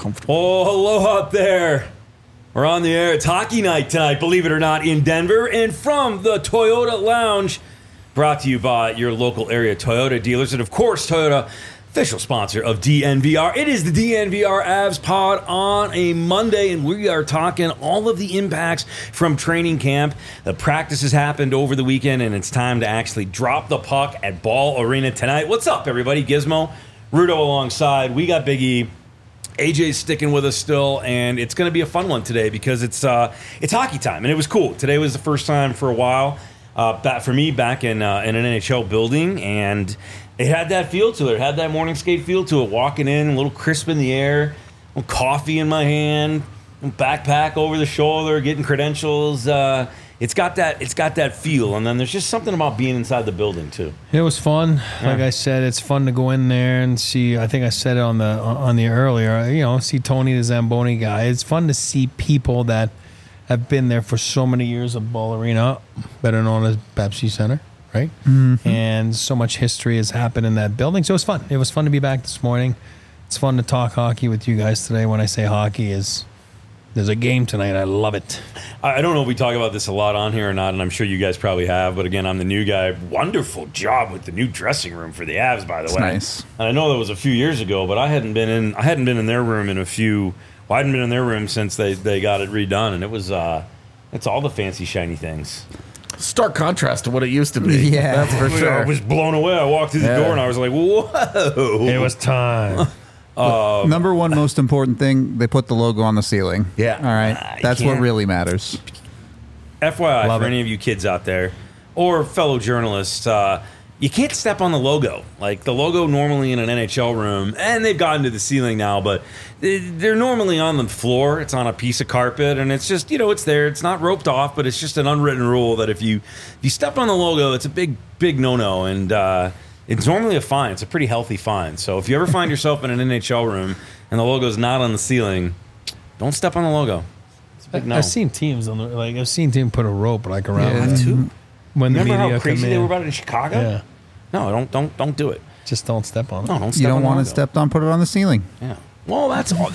comfortable. Oh, hello out there. We're on the air. It's hockey night tonight, believe it or not, in Denver. And from the Toyota Lounge, brought to you by your local area Toyota dealers. And, of course, Toyota, official sponsor of DNVR. It is the DNVR Avs pod on a Monday, and we are talking all of the impacts from training camp. The practices happened over the weekend, and it's time to actually drop the puck at Ball Arena tonight. What's up, everybody? Gizmo, Rudo alongside. We got Big E. AJ's sticking with us still, and it's going to be a fun one today because it's hockey time, and it was cool. Today was the first time for a while for me back in an NHL building, and it had that feel to it. It had that morning skate feel to it. Walking in, a little crisp in the air, a little coffee in my hand, a backpack over the shoulder, getting credentials. It's got that feel, and then there's just something about being inside the building too. It was fun. Yeah. Like I said, it's fun to go in there and see. I think I said it on the earlier. See Tony the Zamboni guy. It's fun to see people that have been there for so many years of Ball Arena, better known as Pepsi Center, right? Mm-hmm. And so much history has happened in that building. So it was fun. It was fun to be back this morning. It's fun to talk hockey with you guys today. When I say hockey, there's a game tonight. I love it. I don't know if we talk about this a lot on here or not, and I'm sure you guys probably have, but again, I'm the new guy. Wonderful job with the new dressing room for the Avs, by the way. Nice. And I know that was a few years ago, but I hadn't been in their room I hadn't been in their room since they got it redone, and it's all the fancy shiny things. Stark contrast to what it used to be. Yeah. That's for sure. I was blown away. I walked through the door and I was like, whoa. It was time. Number one most important thing, they put the logo on the ceiling. Yeah. All right. That's what really matters. FYI, Love for it. any of you kids out there or fellow journalists, you can't step on the logo. Like the logo normally in an NHL room, and they've gotten to the ceiling now, but they're normally on the floor. It's on a piece of carpet, and it's just, it's there. It's not roped off, but it's just an unwritten rule that if you step on the logo, it's a big, big no-no, and it's normally a fine. It's a pretty healthy fine. So if you ever find yourself in an NHL room and the logo's not on the ceiling, don't step on the logo. It's a big no. I've seen teams I've seen teams put a rope around Yeah. it. too. When the Remember media how crazy come they in. were about it in Chicago? Yeah. No, don't do it. Just don't step on it. No, don't step You on don't the want it logo. stepped on, put it on the ceiling. Yeah. Well, that's all.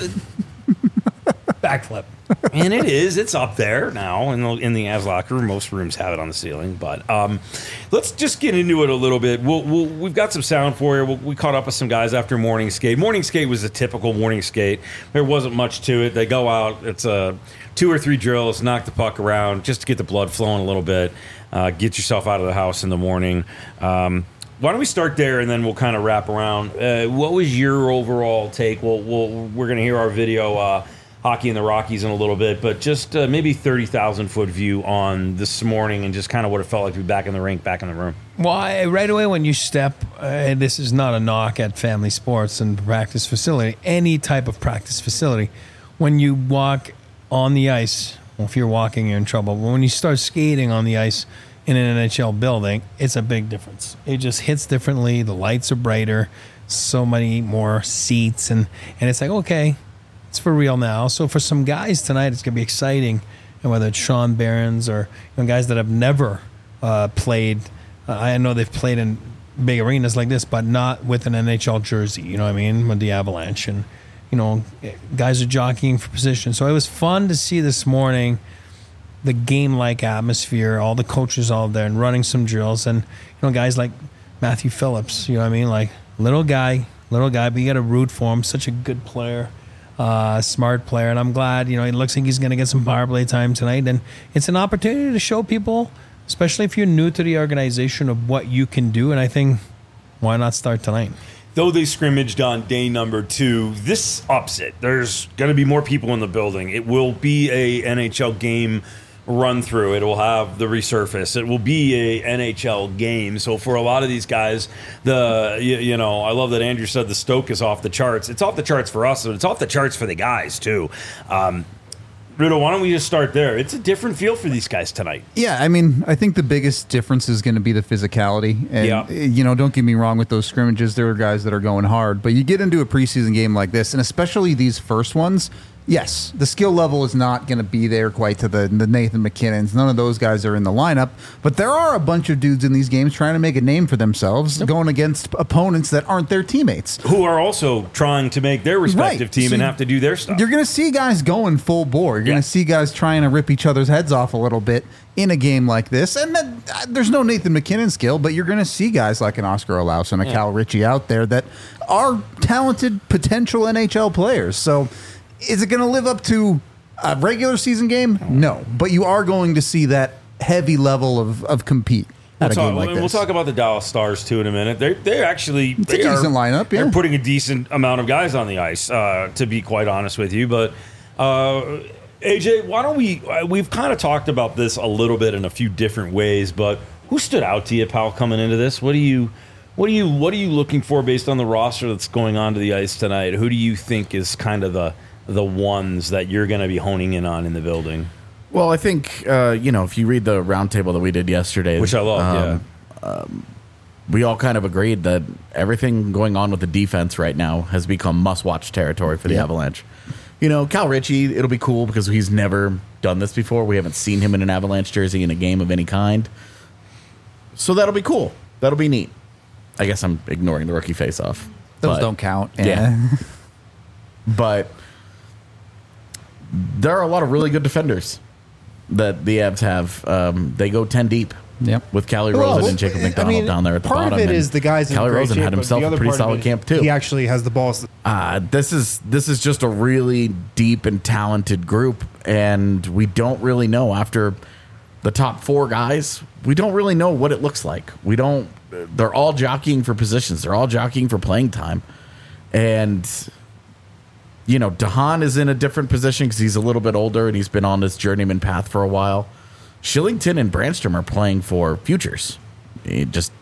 Backflip. And it is. It's up there now in the Avs locker room. Most rooms have it on the ceiling. But let's just get into it a little bit. We've got some sound for you. We caught up with some guys after morning skate. Morning skate was a typical morning skate. There wasn't much to it. They go out. It's 2 or 3 drills, knock the puck around just to get the blood flowing a little bit. Get yourself out of the house in the morning. Why don't we start there and then we'll kind of wrap around. What was your overall take? We're going to hear our video, Hockey in the Rockies, in a little bit, but just maybe 30,000-foot view on this morning and just kind of what it felt like to be back in the rink, back in the room. Well, right away when you step, and this is not a knock at family sports and practice facility, any type of practice facility, when you walk on the ice, well, if you're walking, you're in trouble. But when you start skating on the ice in an NHL building, it's a big difference. It just hits differently. The lights are brighter, so many more seats, and it's like, okay, it's for real now. So for some guys tonight, it's going to be exciting, and whether it's Sean Behrens or guys that have never played. I know they've played in big arenas like this, but not with an NHL jersey. You know what I mean? With the Avalanche, and guys are jockeying for position. So it was fun to see this morning the game-like atmosphere, all the coaches all there and running some drills, and guys like Matthew Phillips. You know what I mean? Like little guy, but you got to root for him. Such a good player. Smart player, and I'm glad, it looks like he's going to get some power play time tonight, and it's an opportunity to show people, especially if you're new to the organization, of what you can do, and I think, why not start tonight? Though they scrimmaged on day number 2, this ups it. There's going to be more people in the building. It will be a NHL game run through. It will have the resurface. It will be a NHL game. So for a lot of these guys, I love that Andrew said the stoke is off the charts. It's off the charts for us, but it's off the charts for the guys too. Rudo, why don't we just start there? It's a different feel for these guys tonight. Yeah, I mean, I think the biggest difference is going to be the physicality. And, don't get me wrong with those scrimmages. There are guys that are going hard. But you get into a preseason game like this, and especially these first ones, Yes, the skill level is not going to be there quite to the Nathan McKinnons. None of those guys are in the lineup, but there are a bunch of dudes in these games trying to make a name for themselves, going against opponents that aren't their teammates. Who are also trying to make their respective team So and have to do their stuff. You're going to see guys going full bore. You're going to see guys trying to rip each other's heads off a little bit in a game like this. And then, there's no Nathan McKinnon skill, but you're going to see guys like an Oscar Olaus and a Cal Ritchie out there that are talented potential NHL players. So is it going to live up to a regular season game? No. But you are going to see that heavy level of compete at a game like this. We'll talk about the Dallas Stars, too, in a minute. They're actually... It's a decent lineup, yeah. They're putting a decent amount of guys on the ice, to be quite honest with you. But, AJ, why don't we've kind of talked about this a little bit in a few different ways, but who stood out to you, pal, coming into this? What are you looking for based on the roster that's going onto the ice tonight? Who do you think is kind of the ones that you're going to be honing in on in the building? Well, I think, if you read the roundtable that we did yesterday, which I love, we all kind of agreed that everything going on with the defense right now has become must-watch territory for the Avalanche. Cal Ritchie, it'll be cool because he's never done this before. We haven't seen him in an Avalanche jersey in a game of any kind. So that'll be cool. That'll be neat. I guess I'm ignoring the rookie face-off. Those don't count. Yeah. But there are a lot of really good defenders that the Avs have. They go 10 deep. Yep. With Callie Rosen and Jacob McDonald down there at the bottom. Part of it is the guys in Callie great Rosen shape, had but himself the a other pretty part of solid it, camp too. He actually has the balls. This is just a really deep and talented group, and we don't really know after the top 4 guys. We don't really know what it looks like. They're all jockeying for positions. They're all jockeying for playing time, and DeHaan is in a different position because he's a little bit older and he's been on this journeyman path for a while. Shillington and Brandstrom are playing for futures, just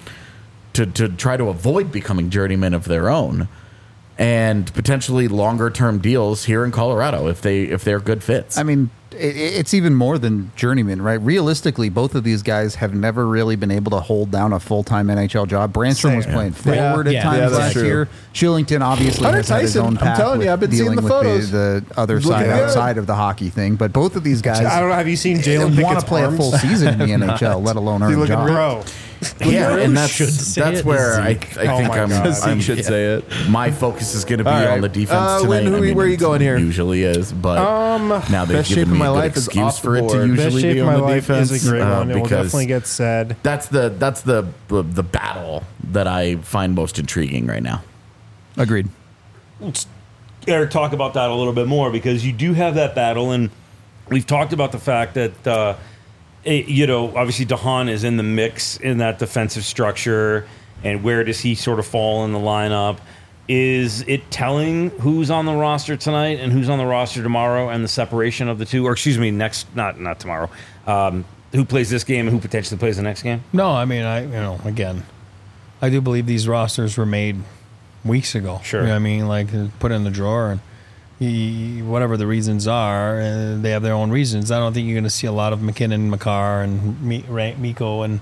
to try to avoid becoming journeymen of their own, and potentially longer term deals here in Colorado if they're good fits. I mean, it's even more than journeyman, right? Realistically, both of these guys have never really been able to hold down a full-time NHL job. Brandstrom was playing forward at times last year. Shillington obviously has had his own path. I'm telling you, I've been seeing the photos. The other side outside of the hockey thing. But both of these guys, I don't know. Have you seen Jalen want to play a full season in the NHL, let alone earn a job? Bro. Yeah, and that's where I think I should say it. My focus is going to be on the defense tonight. Where are you going here? Usually is, but now they've best shape given of me my a good life is excuse off for the it to board. Best usually shape be of on my the life defense. is a great one. It will because definitely get said. That's the battle that I find most intriguing right now. Agreed. Let's talk about that a little bit more because you do have that battle, and we've talked about the fact that obviously DeHaan is in the mix in that defensive structure, and where does he sort of fall in the lineup? Is it telling who's on the roster tonight and who's on the roster tomorrow, and the separation of the two? Or excuse me, not tomorrow. Who plays this game and who potentially plays the next game? No, I mean, again, I do believe these rosters were made weeks ago. Sure. You know what I mean? Like, put it in the drawer, and whatever the reasons are, they have their own reasons. I don't think you're going to see a lot of McKinnon, Makar, and Mikko and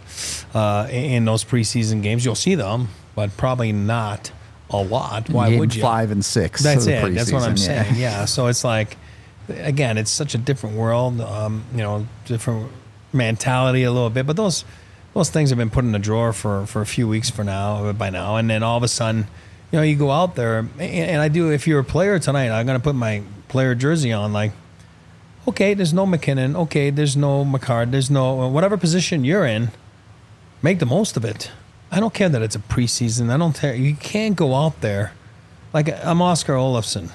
in those preseason games. You'll see them, but probably not a lot. Why would you? 5 and 6. That's it. That's what I'm saying. Yeah. So it's like, again, it's such a different world. Different mentality a little bit, but those things have been put in the drawer for a few weeks by now, and then all of a sudden, you go out there, and I do. If you're a player tonight, I'm going to put my player jersey on. Like, okay, there's no McKinnon. Okay, there's no Makar. There's no whatever position you're in. Make the most of it. I don't care that it's a preseason. I don't care. You can't go out there like I'm Oscar Olofsson.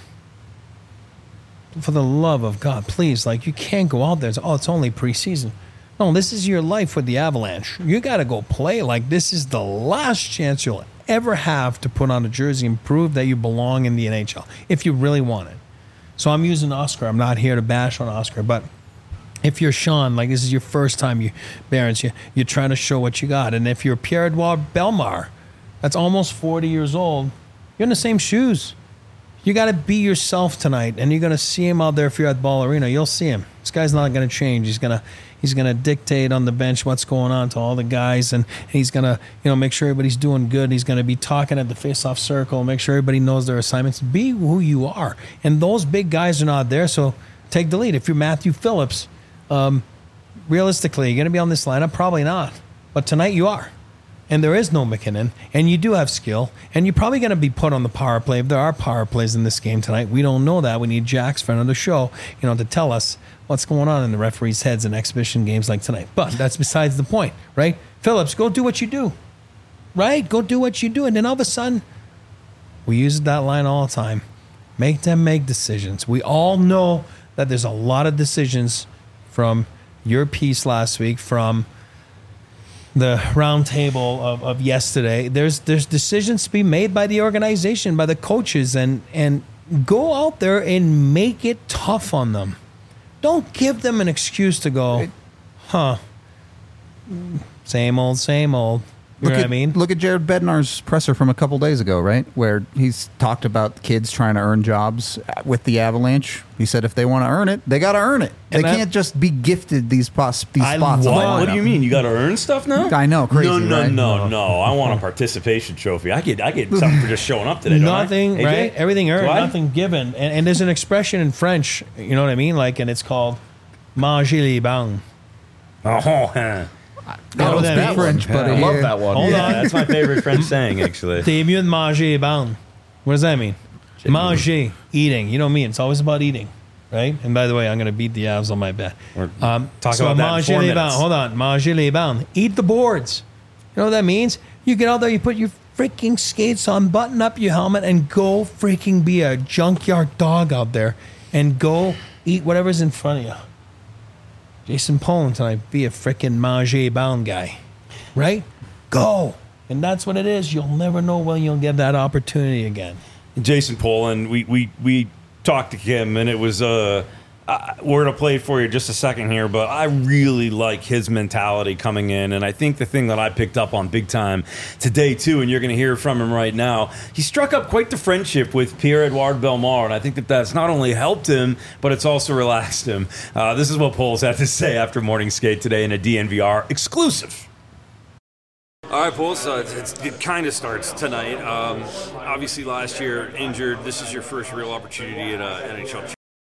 For the love of God, please, you can't go out there. It's only preseason. No, this is your life with the Avalanche. You got to go play. This is the last chance you'll ever have to put on a jersey and prove that you belong in the NHL if you really want it. So I'm using Oscar. I'm not here to bash on Oscar, but if you're Sean, this is your first time, Barons, you're trying to show what you got. And if you're Pierre-Edouard Bellemare, that's almost 40 years old, you're in the same shoes. You got to be yourself tonight, and you're going to see him out there if you're at Ball Arena. You'll see him. This guy's not going to change. He's gonna dictate on the bench what's going on to all the guys, and he's gonna make sure everybody's doing good. He's gonna be talking at the face-off circle, make sure everybody knows their assignments. Be who you are, and those big guys are not there. So take the lead. If you're Matthew Phillips, realistically, you're gonna be on this lineup, probably not. But tonight you are. And there is no McKinnon, and you do have skill, and you're probably going to be put on the power play if there are power plays in this game tonight. We don't know that. We need Jack's friend of the show, to tell us what's going on in the referees' heads in exhibition games like tonight. But that's besides the point, right? Phillips, go do what you do, right? Go do what you do, and then all of a sudden, we use that line all the time. Make them make decisions. We all know that there's a lot of decisions from your piece last week, from the round table of yesterday. There's decisions to be made by the organization, by the coaches, and go out there and make it tough on them. Don't give them an excuse to go, same old, same old. You know what I mean? Look at Jared Bednar's presser from a couple days ago, right? Where he's talked about kids trying to earn jobs with the Avalanche. He said if they want to earn it, they got to earn it. They can't just be gifted these spots. What do you mean? You got to earn stuff now? I know, crazy. No. I want a participation trophy. I get something for just showing up today. Nothing, right? Everything earned, nothing given. And there's an expression in French, you know what I mean? And it's called manger les bancs. That was that French, but I love that one. Hold on. That's my favorite French saying, actually. T'es mieux de manger les bancs. What does that mean? Manger, eating. You know me. It's always about eating, right? And by the way, I'm going to beat the Avs on my bet. Talk about that in 4 minutes. Hold on. Manger les bancs. Eat the boards. You know what that means? You get out there, you put your freaking skates on, button up your helmet, and go freaking be a junkyard dog out there and go eat whatever's in front of you. Jason Poland tonight, be a freaking manger bound guy, right? Go. And that's what it is. You'll never know when you'll get that opportunity again. Jason Poland, we talked to him, and it was we're going to play for you just a second here, but I really like his mentality coming in, and I think the thing that I picked up on big time today, too, and you're going to hear from him right now, he struck up quite the friendship with Pierre-Edouard Bellemare, and I think that that's not only helped him, but it's also relaxed him. This is what Poles had to say after morning skate today in a DNVR exclusive. All right, Poles, it kind of starts tonight. Obviously, last year, injured. This is your first real opportunity at NHL Championship.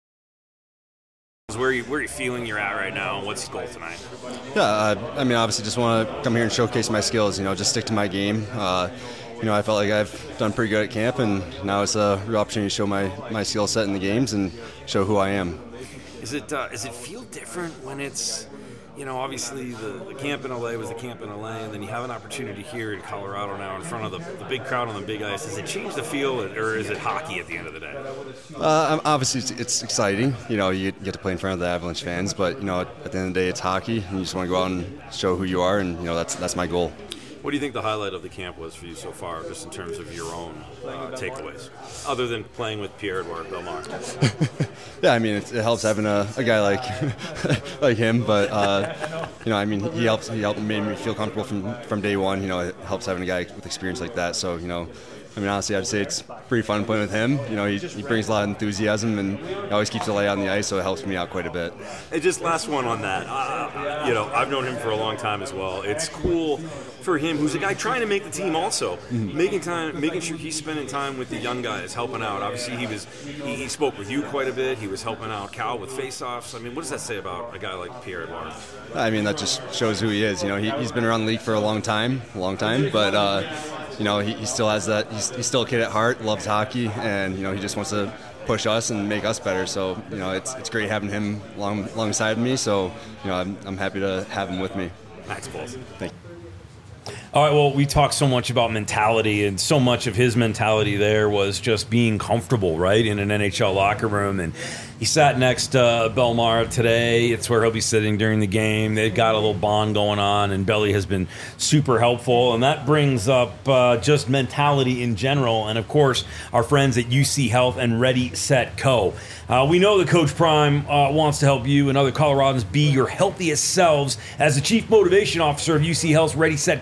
Where are you feeling you're at right now, and what's the goal tonight? Yeah, obviously just want to come here and showcase my skills, just stick to my game. I felt like I've done pretty good at camp, and now it's a real opportunity to show my skill set in the games and show who I am. Is it feel different when it's, obviously the camp in LA was the camp in LA, and then you have an opportunity here in Colorado now in front of the big crowd on the big ice. Does it change the feel, or is it hockey at the end of the day? Obviously, it's exciting. You get to play in front of the Avalanche fans, but, at the end of the day, it's hockey, and you just want to go out and show who you are, and, that's my goal. What do you think the highlight of the camp was for you so far, just in terms of your own takeaways, other than playing with Pierre-Edouard Bellemare? Yeah, it helps having a guy like him, but he helped made me feel comfortable from day one. It helps having a guy with experience like that. So honestly, I'd say it's pretty fun playing with him. He brings a lot of enthusiasm, and he always keeps the light on the ice, so it helps me out quite a bit. And just last one on that. I've known him for a long time as well. It's cool for him, who's a guy trying to make the team also, making sure he's spending time with the young guys, helping out. Obviously, he spoke with you quite a bit. He was helping out Cal with face-offs. What does that say about a guy like Pierre-Edouard? That just shows who he is. He's been around the league for a long time, but he still has that. He's still a kid at heart, loves hockey, and he just wants to push us and make us better. So it's great having him alongside me. So I'm happy to have him with me. Thanks, Paul. Thank you. All right, well, we talked so much about mentality, and so much of his mentality there was just being comfortable, right, in an NHL locker room. And he sat next to Bellemare today. It's where he'll be sitting during the game. They've got a little bond going on, and Belly has been super helpful. And that brings up just mentality in general. And, of course, our friends at UC Health and Ready, Set, Co. We know that Coach Prime wants to help you and other Coloradans be your healthiest selves. As the Chief Motivation Officer of UC Health's Ready, Set, Co. Challenge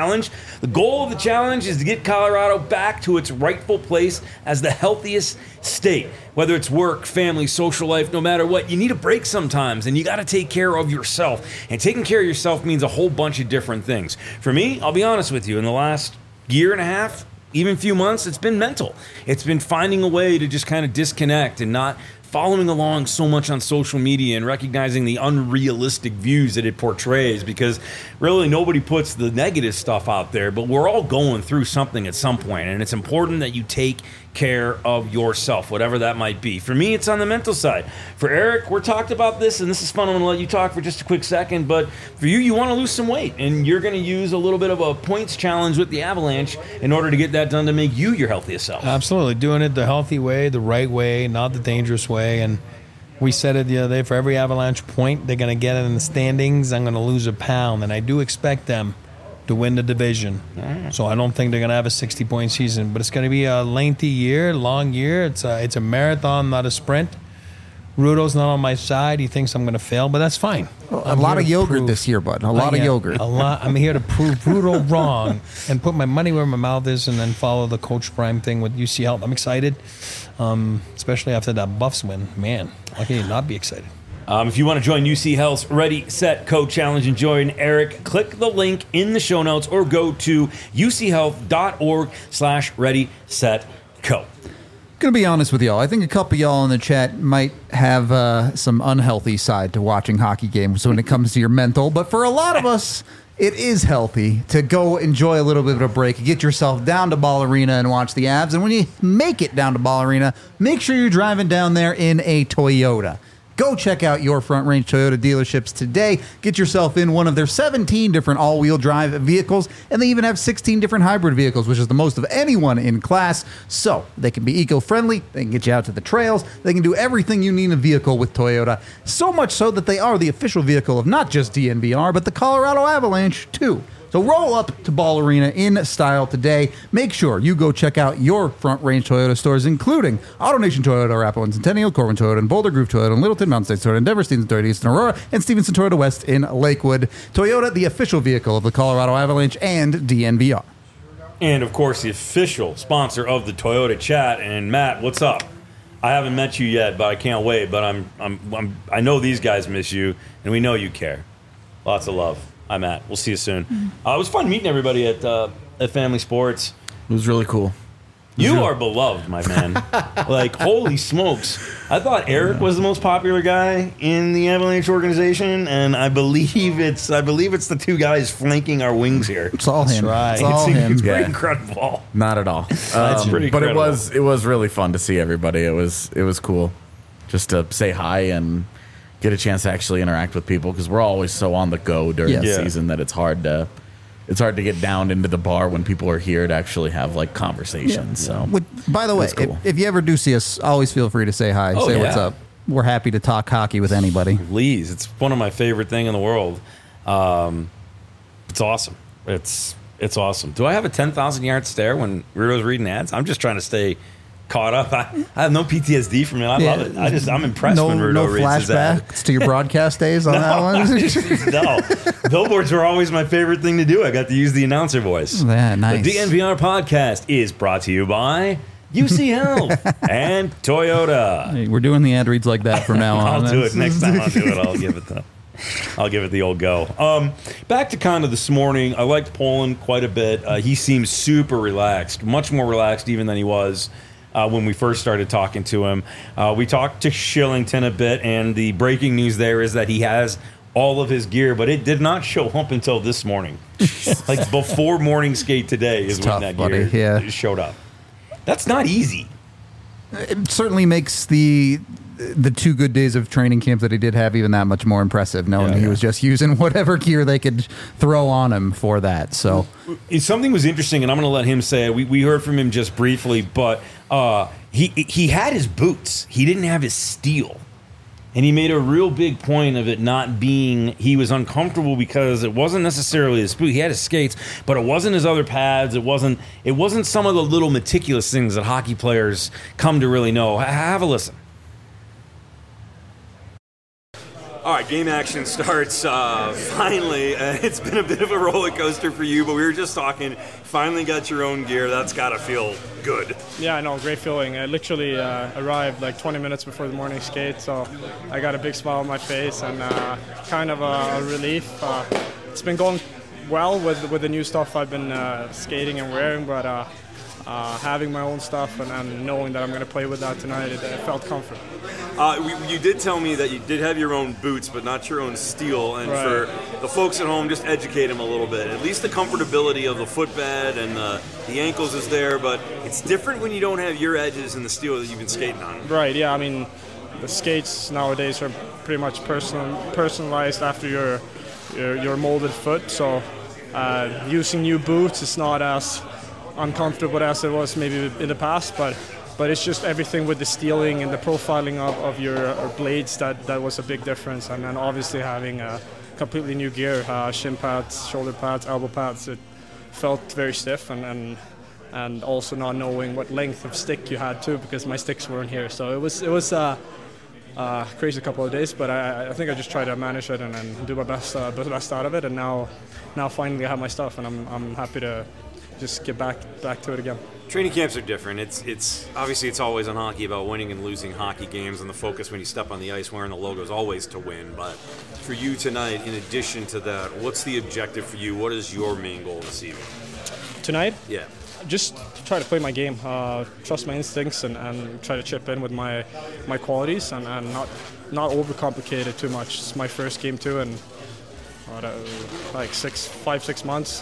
challenge. The goal of the challenge is to get Colorado back to its rightful place as the healthiest state. Whether it's work, family, social life, no matter what, you need a break sometimes, and you got to take care of yourself. And taking care of yourself means a whole bunch of different things. For me, I'll be honest with you, in the last year and a half, even few months, it's been mental. It's been finding a way to just kind of disconnect and not following along so much on social media and recognizing the unrealistic views that it portrays, because really nobody puts the negative stuff out there, but we're all going through something at some point, and it's important that you take care of yourself, whatever that might be. For me, it's on the mental side. For Eric, we're talked about this, and this is fun. I'm going to let you talk for just a quick second, but for you, you want to lose some weight, and you're going to use a little bit of a points challenge with the Avalanche in order to get that done to make you your healthiest self. Absolutely. Doing it the healthy way, the right way, not the dangerous way. And we said it the other day, for every Avalanche point they're going to get in the standings, I'm going to lose a pound. And I do expect them to win the division. So I don't think they're going to have a 60-point season. But it's going to be a lengthy year, long year. It's a marathon, not a sprint. Rudo's not on my side. He thinks I'm going to fail, but that's fine. A lot of yogurt this year, bud. A lot of yogurt. I'm here to prove Rudo wrong and put my money where my mouth is, and then follow the Coach Prime thing with UC Health. I'm excited, especially after that Buffs win. Man, how can you not be excited? If you want to join UC Health's Ready, Set, Co Challenge and join Eric, click the link in the show notes or go to uchealth.org/Ready, Set, Co. Gonna be honest with y'all. I think a couple y'all in the chat might have some unhealthy side to watching hockey games when it comes to your mental. But for a lot of us, it is healthy to go enjoy a little bit of a break, get yourself down to Ball Arena and watch the Avs. And when you make it down to Ball Arena, make sure you're driving down there in a Toyota. Go check out your Front Range Toyota dealerships today. Get yourself in one of their 17 different all-wheel drive vehicles, and they even have 16 different hybrid vehicles, which is the most of anyone in class. So they can be eco-friendly, they can get you out to the trails, they can do everything you need in a vehicle with Toyota. So much so that they are the official vehicle of not just DNVR, but the Colorado Avalanche, too. So roll up to Ball Arena in style today. Make sure you go check out your Front Range Toyota stores, including AutoNation Toyota, Arapahoe and Centennial, Corbin Toyota, and Boulder Grove Toyota, and Littleton, Mountain States Toyota, and Denver, Stevenson Toyota East, and Aurora, and Stevenson Toyota West in Lakewood. Toyota, the official vehicle of the Colorado Avalanche and DNVR. And, of course, the official sponsor of the Toyota Chat. And, Matt, what's up? I haven't met you yet, but I can't wait. But I know these guys miss you, and we know you care. Lots of love. I'm Matt. We'll see you soon. It was fun meeting everybody at Family Sports. It was really cool. You are beloved, my man. Like, holy smokes. I thought Eric was the most popular guy in the Avalanche organization, and I believe it's the two guys flanking our wings here. It's all him. right. It's all him. It's pretty Yeah. incredible. Not at all. That's pretty but incredible. it was really fun to see everybody. It was cool just to say hi and get a chance to actually interact with people, because we're always so on the go during Yes. the Yeah. season that it's hard to get down into the bar when people are here to actually have like conversations. So By the way, That's cool. if you ever do see us, always feel free to say hi, Oh, say yeah. what's up. We're happy to talk hockey with anybody. Please. It's one of my favorite thing in the world. It's awesome. It's awesome. Do I have a 10,000 yard stare when Rudo's reading ads? I'm just trying to stay caught up. I have no PTSD from it. I love it. I'm impressed when Rudo reads his ad. flashbacks to your broadcast days on that one. No. Billboards were always my favorite thing to do. I got to use the announcer voice. Yeah, nice. The DNVR podcast is brought to you by UC Health and Toyota. Hey, we're doing the ad reads like that from now on. I'll do it next time. I'll do it. I'll give it the old go. Back to kind of this morning. I liked Poland quite a bit. He seems super relaxed, much more relaxed even than he was when we first started talking to him. We talked to Shillington a bit, and the breaking news there is that he has all of his gear, but it did not show up until this morning. Like before morning skate today is when tough, that buddy. gear Yeah. showed up. That's not easy. It certainly makes the 2 good days of training camp that he did have even that much more impressive, knowing he was just using whatever gear they could throw on him for that. So Something was interesting, and I'm going to let him say it. We heard from him just briefly, but he had his boots. He didn't have his steel. And he made a real big point of it not being, he was uncomfortable because it wasn't necessarily his boot. He had his skates, but it wasn't his other pads. It wasn't some of the little meticulous things that hockey players come to really know. Have a listen. All right, game action starts finally. It's been a bit of a roller coaster for you, but we were just talking. Finally got your own gear. That's got to feel good. Yeah, I know, great feeling. I literally arrived like 20 minutes before the morning skate, so I got a big smile on my face and kind of a relief. It's been going well with the new stuff I've been skating and wearing, but having my own stuff and knowing that I'm going to play with that tonight, it felt comfortable. You did tell me that you did have your own boots, but not your own steel. And Right. for the folks at home, just educate them a little bit. At least the comfortability of the footbed and the ankles is there, but it's different when you don't have your edges in the steel that you've been skating on. Right, yeah, I mean, the skates nowadays are pretty much personalized after your molded foot, so using new boots is not as uncomfortable as it was maybe in the past, but it's just everything with the steeling and the profiling of your blades that was a big difference. And then obviously having a completely new gear, shin pads, shoulder pads, elbow pads, it felt very stiff, and also not knowing what length of stick you had too, because my sticks weren't here. So it was crazy couple of days, but I think I just tried to manage it and do my best out of it. And now finally I have my stuff, and I'm happy to just get back to it again. Training camps are different. It's obviously it's always on hockey about winning and losing hockey games, and the focus when you step on the ice wearing the logo is always to win. But for you tonight, in addition to that, what's the objective for you? What is your main goal this evening? Tonight? Yeah. Just try to play my game, trust my instincts, and try to chip in with my qualities, and not overcomplicate it too much. It's my first game too, and like 5-6 months.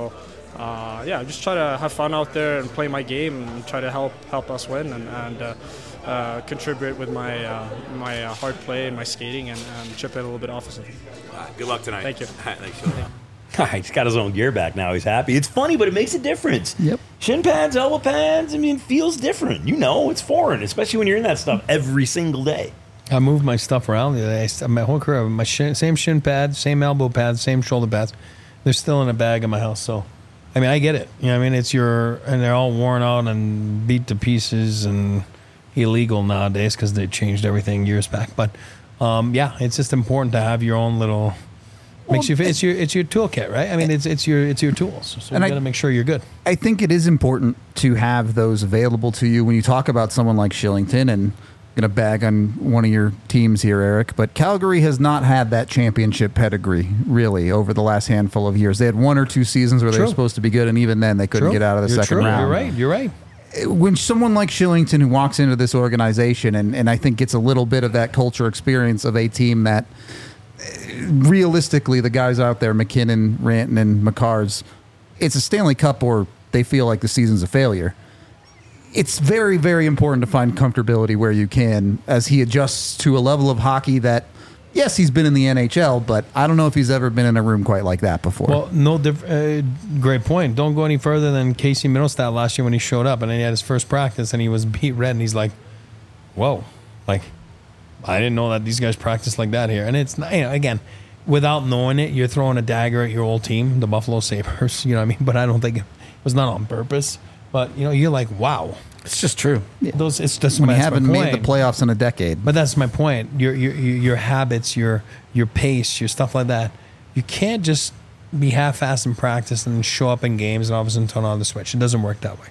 Yeah, just try to have fun out there and play my game and try to help us win and contribute with my hard play and my skating and chip in a little bit offensively. Good luck tonight. Thank you. Thanks, Sean. He's got his own gear back now. He's happy. It's funny, but it makes a difference. Yep. Shin pads, elbow pads, I mean, it feels different. You know, it's foreign, especially when you're in that stuff every single day. I moved my stuff around the other day. My whole career, same shin pads, same elbow pads, same shoulder pads. They're still in a bag in my house. So, I mean, I get it. You know what I mean? And they're all worn out and beat to pieces and illegal nowadays because they changed everything years back. But, yeah, it's just important to have your own little... It's your toolkit, right? I mean, it's your tools. So you got to make sure you're good. I think it is important to have those available to you when you talk about someone like Shillington, and I'm going to bag on one of your teams here, Eric, but Calgary has not had that championship pedigree, really, over the last handful of years. They had 1 or 2 seasons where they were supposed to be good, and even then they couldn't get out of the second round. You're right. When someone like Shillington who walks into this organization and I think gets a little bit of that culture experience of a team that realistically, the guys out there, McKinnon, Rantanen, McCarrs, it's a Stanley Cup or they feel like the season's a failure. It's very, very important to find comfortability where you can as he adjusts to a level of hockey that, yes, he's been in the NHL, but I don't know if he's ever been in a room quite like that before. Well, great point. Don't go any further than Casey Middlestat last year when he showed up and then he had his first practice and he was beat red and he's like, whoa, like, I didn't know that these guys practice like that here. And it's, again, without knowing it, you're throwing a dagger at your old team, the Buffalo Sabres, you know what I mean? But I don't think it was not on purpose. But, you're like, wow. It's just true. Yeah. It's just when you that's haven't my made point. the playoffs in a decade. But that's my point. Your habits, your pace, your stuff like that. You can't just be half-assed in practice and show up in games and all of a sudden turn on the switch. It doesn't work that way.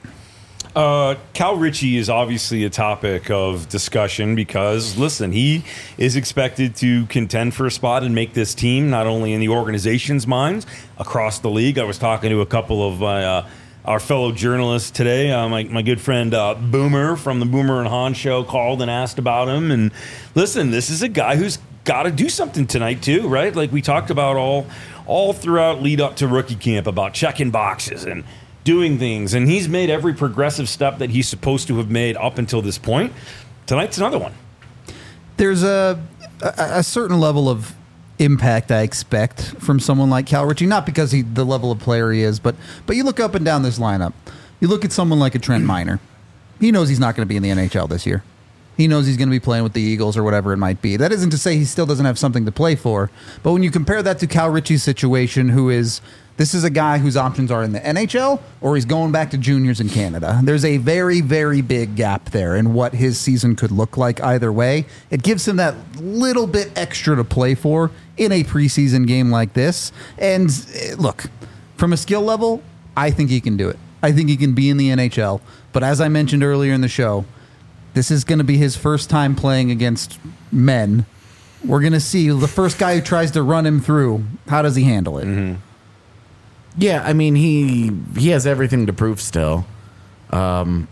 Cal Ritchie is obviously a topic of discussion because, listen, he is expected to contend for a spot and make this team not only in the organization's minds, across the league. I was talking to a couple of our fellow journalists today. My good friend Boomer from the Boomer and Hahn show called and asked about him. And listen, this is a guy who's got to do something tonight too, right? Like we talked about all throughout lead up to rookie camp about checking boxes and doing things, and he's made every progressive step that he's supposed to have made up until this point. Tonight's another one. There's a certain level of impact I expect from someone like Cal Ritchie, not because the level of player he is, but you look up and down this lineup. You look at someone like a Trent Miner. He knows he's not going to be in the NHL this year. He knows he's going to be playing with the Eagles or whatever it might be. That isn't to say he still doesn't have something to play for, but when you compare that to Cal Ritchie's situation, who is This is a guy whose options are in the NHL or he's going back to juniors in Canada. There's a very, very big gap there in what his season could look like either way. It gives him that little bit extra to play for in a preseason game like this. And look, from a skill level, I think he can do it. I think he can be in the NHL. But as I mentioned earlier in the show, this is going to be his first time playing against men. We're going to see the first guy who tries to run him through. How does he handle it? Mm-hmm. Yeah, I mean, he has everything to prove still. Jared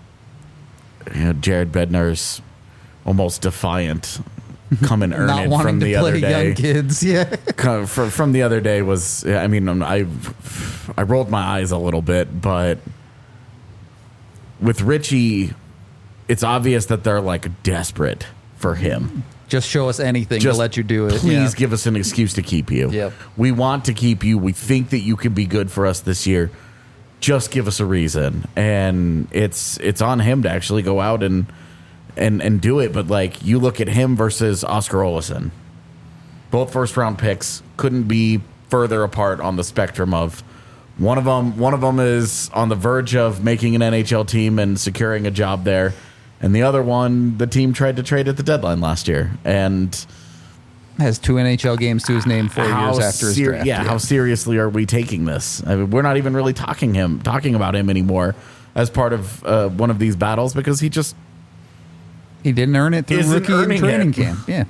Bednar's almost defiant. Come and earn Not it wanting from to the play other day. young kids, yeah. From the other day was, I mean, I rolled my eyes a little bit, but with Richie, it's obvious that they're like desperate for him. Just show us anything to Just let you do it. Please give us an excuse to keep you. Yep. We want to keep you. We think that you can be good for us this year. Just give us a reason. And it's on him to actually go out and do it. But like, you look at him versus Oscar Olesen. Both first round picks couldn't be further apart on the spectrum of one of them is on the verge of making an NHL team and securing a job there. And the other one, the team tried to trade at the deadline last year, and has 2 NHL games to his name 4 years after his draft. Yeah, how seriously are we taking this? I mean, we're not even really talking about him anymore as part of one of these battles because he didn't earn it through Isn't rookie and earning training it. camp. Yeah,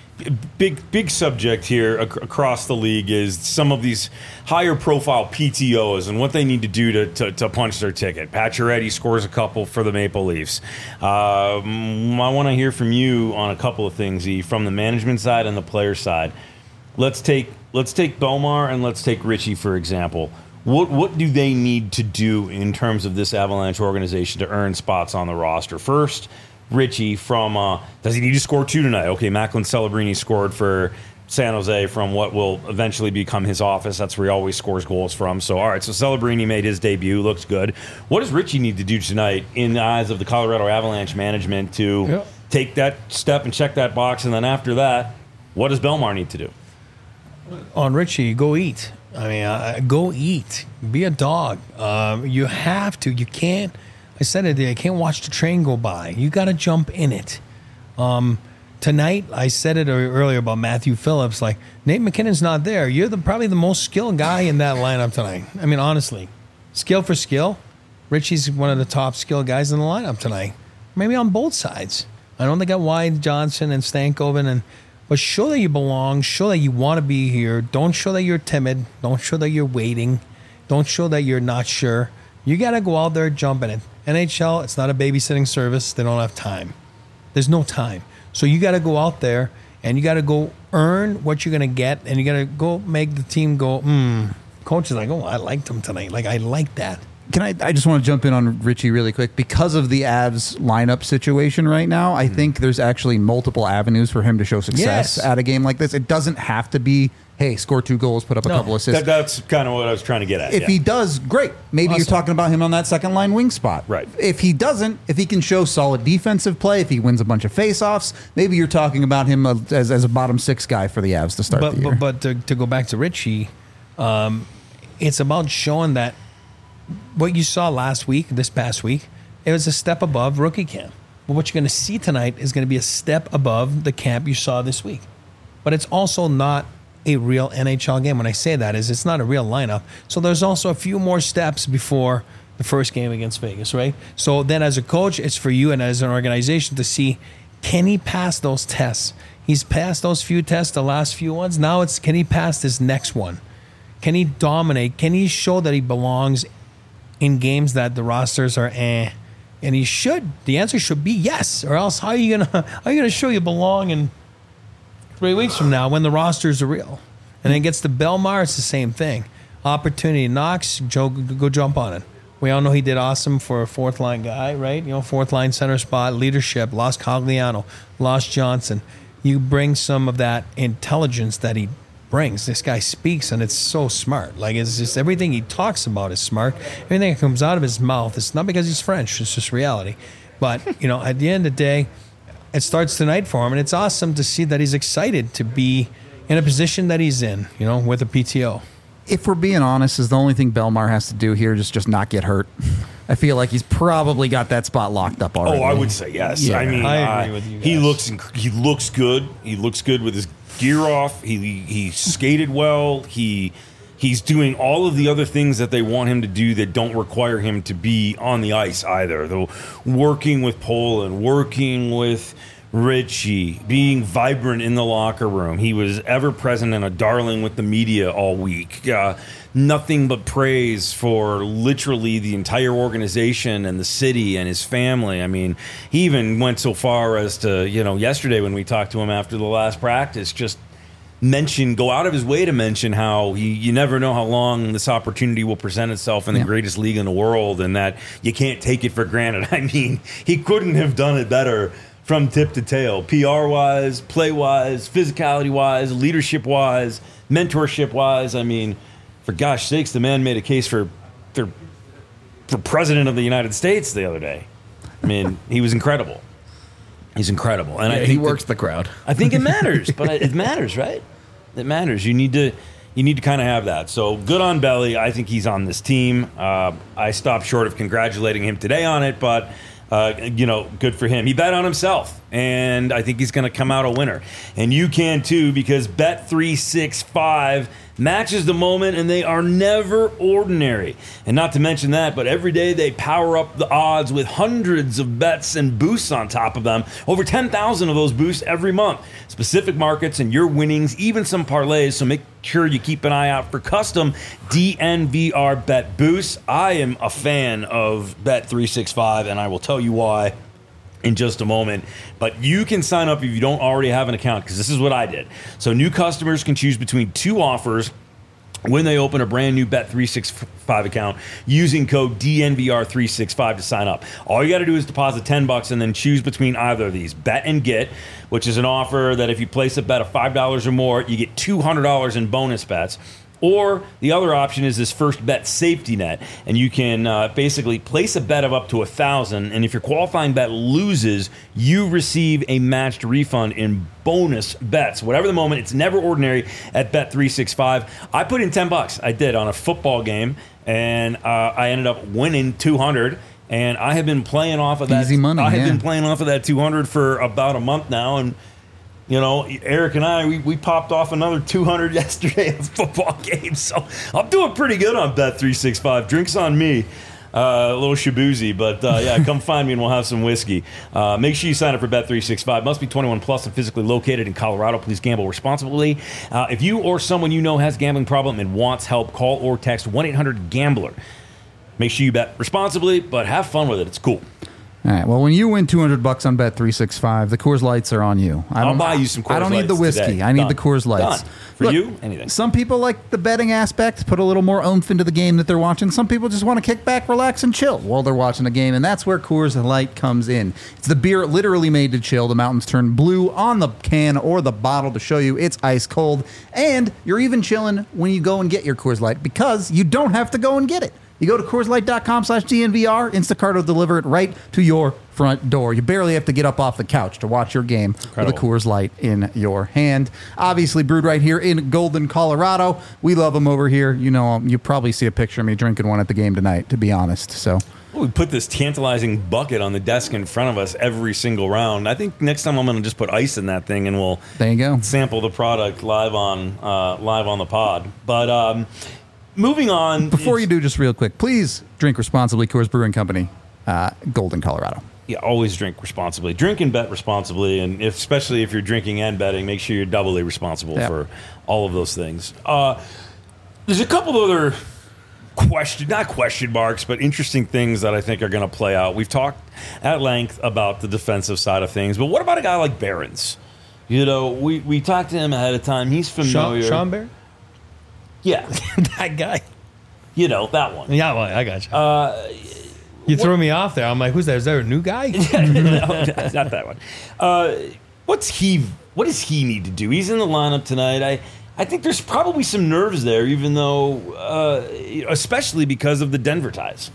Big subject here across the league is some of these higher profile PTOs and what they need to do to punch their ticket. Pacioretty scores a couple for the Maple Leafs. I want to hear from you on a couple of things, E, from the management side and the player side. Let's take Belmar and let's take Richie, for example. What do they need to do in terms of this Avalanche organization to earn spots on the roster? First, Richie from, does he need to score 2 tonight? Okay, Macklin Celebrini scored for San Jose from what will eventually become his office. That's where he always scores goals from. So, all right, so Celebrini made his debut. Looks good. What does Richie need to do tonight in the eyes of the Colorado Avalanche management to take that step and check that box? And then after that, what does Belmar need to do? On Richie, go eat. I mean, go eat. Be a dog. You have to. You can't. I said it there. I can't watch the train go by. You got to jump in it. Tonight, I said it earlier about Matthew Phillips. Like, Nate McKinnon's not there. You're probably the most skilled guy in that lineup tonight. I mean, honestly, skill for skill, Richie's one of the top skilled guys in the lineup tonight. Maybe on both sides. I don't think I Wide, Johnson, and Stankoven, but show that you belong. Show that you want to be here. Don't show that you're timid. Don't show that you're waiting. Don't show that you're not sure. You got to go out there, jump in it. NHL, it's not a babysitting service. They don't have time. There's no time. So you got to go out there and you got to go earn what you're going to get, and you got to go make the team go, Coach is like, oh, I liked him tonight. Like, I like that. I just want to jump in on Richie really quick. Because of the Avs lineup situation right now, I think there's actually multiple avenues for him to show success at a game like this. It doesn't have to be, hey, score 2 goals, put up a couple assists. That's kind of what I was trying to get at. If he does, great. Maybe you're talking about him on that second line wing spot. Right. If he doesn't, if he can show solid defensive play, if he wins a bunch of faceoffs, maybe you're talking about him as a bottom 6 guy for the Avs to start the year. But to go back to Richie, it's about showing that what you saw this past week, it was a step above rookie camp. But what you're going to see tonight is going to be a step above the camp you saw this week. But it's also not a real NHL game. When I say that, it's not a real lineup. So there's also a few more steps before the first game against Vegas, right? So then as a coach, it's for you and as an organization to see, can he pass those tests? He's passed those few tests, the last few ones. Now it's, can he pass this next one? Can he dominate? Can he show that he belongs in games that the rosters are And he should. The answer should be yes. Or else how are you gonna show you belong in 3 weeks from now when the rosters are real? And then it gets to Belmar, it's the same thing. Opportunity knocks, Joe, go jump on it. We all know he did awesome for a 4th line guy, right? 4th line center spot, leadership, lost Cogliano, lost Johnson. You bring some of that intelligence that he brings. This guy speaks, and it's so smart. Like, it's just everything he talks about is smart. Everything that comes out of his mouth, it's not because he's French, it's just reality. But, at the end of the day, it starts tonight for him, and it's awesome to see that he's excited to be in a position that he's in, with a PTO. if we're being honest, is the only thing Belmar has to do here is just not get hurt. I feel like he's probably got that spot locked up already. Oh, I would say yes. Yeah. I mean, I agree with you he guys. he looks good. He looks good with his gear off. He skated well. He's doing all of the other things that they want him to do that don't require him to be on the ice either. Though working with Poland, working with Richie, being vibrant in the locker room. He was ever present and a darling with the media all week. Nothing but praise for literally the entire organization and the city and his family. I mean, he even went so far as to, yesterday when we talked to him after the last practice, just go out of his way to mention how you never know how long this opportunity will present itself in the greatest league in the world, and that you can't take it for granted. I mean, he couldn't have done it better from tip to tail, PR-wise, play-wise, physicality-wise, leadership-wise, mentorship-wise. I mean, for gosh sakes, the man made a case for president of the United States the other day. I mean, he was incredible. He's incredible. And I think he works the crowd. I think it matters, but it matters, right? It matters. You need to kind of have that. So good on Belly. I think he's on this team. I stopped short of congratulating him today on it, but good for him. He bet on himself, and I think he's going to come out a winner. And you can too, because Bet365 matches the moment, and they are never ordinary. And not to mention that, but every day they power up the odds with hundreds of bets and boosts on top of them. Over 10,000 of those boosts every month. Specific markets and your winnings, even some parlays, so make sure you keep an eye out for custom DNVR bet boosts. I am a fan of Bet365, and I will tell you why in just a moment. But you can sign up if you don't already have an account, because this is what I did. So new customers can choose between two offers when they open a brand new Bet365 account using code DNVR365 to sign up. All you got to do is deposit $10 and then choose between either of these. Bet and Get, which is an offer that if you place a bet of $5 or more, you get $200 in bonus bets. Or the other option is this first bet safety net, and you can basically place a bet of up to $1,000, and if your qualifying bet loses, you receive a matched refund in bonus bets. Whatever the moment, it's never ordinary at Bet365. I put in $10. I did on a football game, and I ended up winning $200. And I have been playing off of that. Easy money. I have been playing off of that $200 for about a month now, and Eric and I, we popped off another $200 yesterday at the football game. So I'm doing pretty good on Bet365. Drinks on me. A little shaboozy, but come find me and we'll have some whiskey. Make sure you sign up for Bet365. Must be 21 plus and physically located in Colorado. Please gamble responsibly. If you or someone you know has a gambling problem and wants help, call or text 1-800-GAMBLER. Make sure you bet responsibly, but have fun with it. It's cool. All right. Well, when you win $200 on Bet365, the Coors Lights are on you. I'll buy you some Coors Lights. I don't need the whiskey. Today. I need Done. the Coors Lights. Done. For you, anything. Some people like the betting aspect, put a little more oomph into the game that they're watching. Some people just want to kick back, relax, and chill while they're watching the game, and that's where Coors Light comes in. It's the beer literally made to chill. The mountains turn blue on the can or the bottle to show you it's ice cold, and you're even chilling when you go and get your Coors Light because you don't have to go and get it. You go to CoorsLight.com/DNVR. Instacart will deliver it right to your front door. You barely have to get up off the couch to watch your game with a Coors Light in your hand. Obviously brewed right here in Golden, Colorado. We love them over here. You probably see a picture of me drinking one at the game tonight, to be honest. So we put this tantalizing bucket on the desk in front of us every single round. I think next time I'm going to just put ice in that thing and we'll there you go. Sample the product live on the pod. But moving on. Before you do, just real quick, please drink responsibly. Coors Brewing Company, Golden, Colorado. Yeah, always drink responsibly. Drink and bet responsibly, and especially if you're drinking and betting, make sure you're doubly responsible for all of those things. There's a couple of other not question marks, but interesting things that I think are going to play out. We've talked at length about the defensive side of things, but what about a guy like Behrens? We talked to him ahead of time. He's familiar. Sean Behrens? Yeah. That guy. That one. Yeah, well, I got you. You threw me off there. I'm like, who's that? Is there a new guy? No, not that one. What does he need to do? He's in the lineup tonight. I think there's probably some nerves there, even though, especially because of the Denver ties.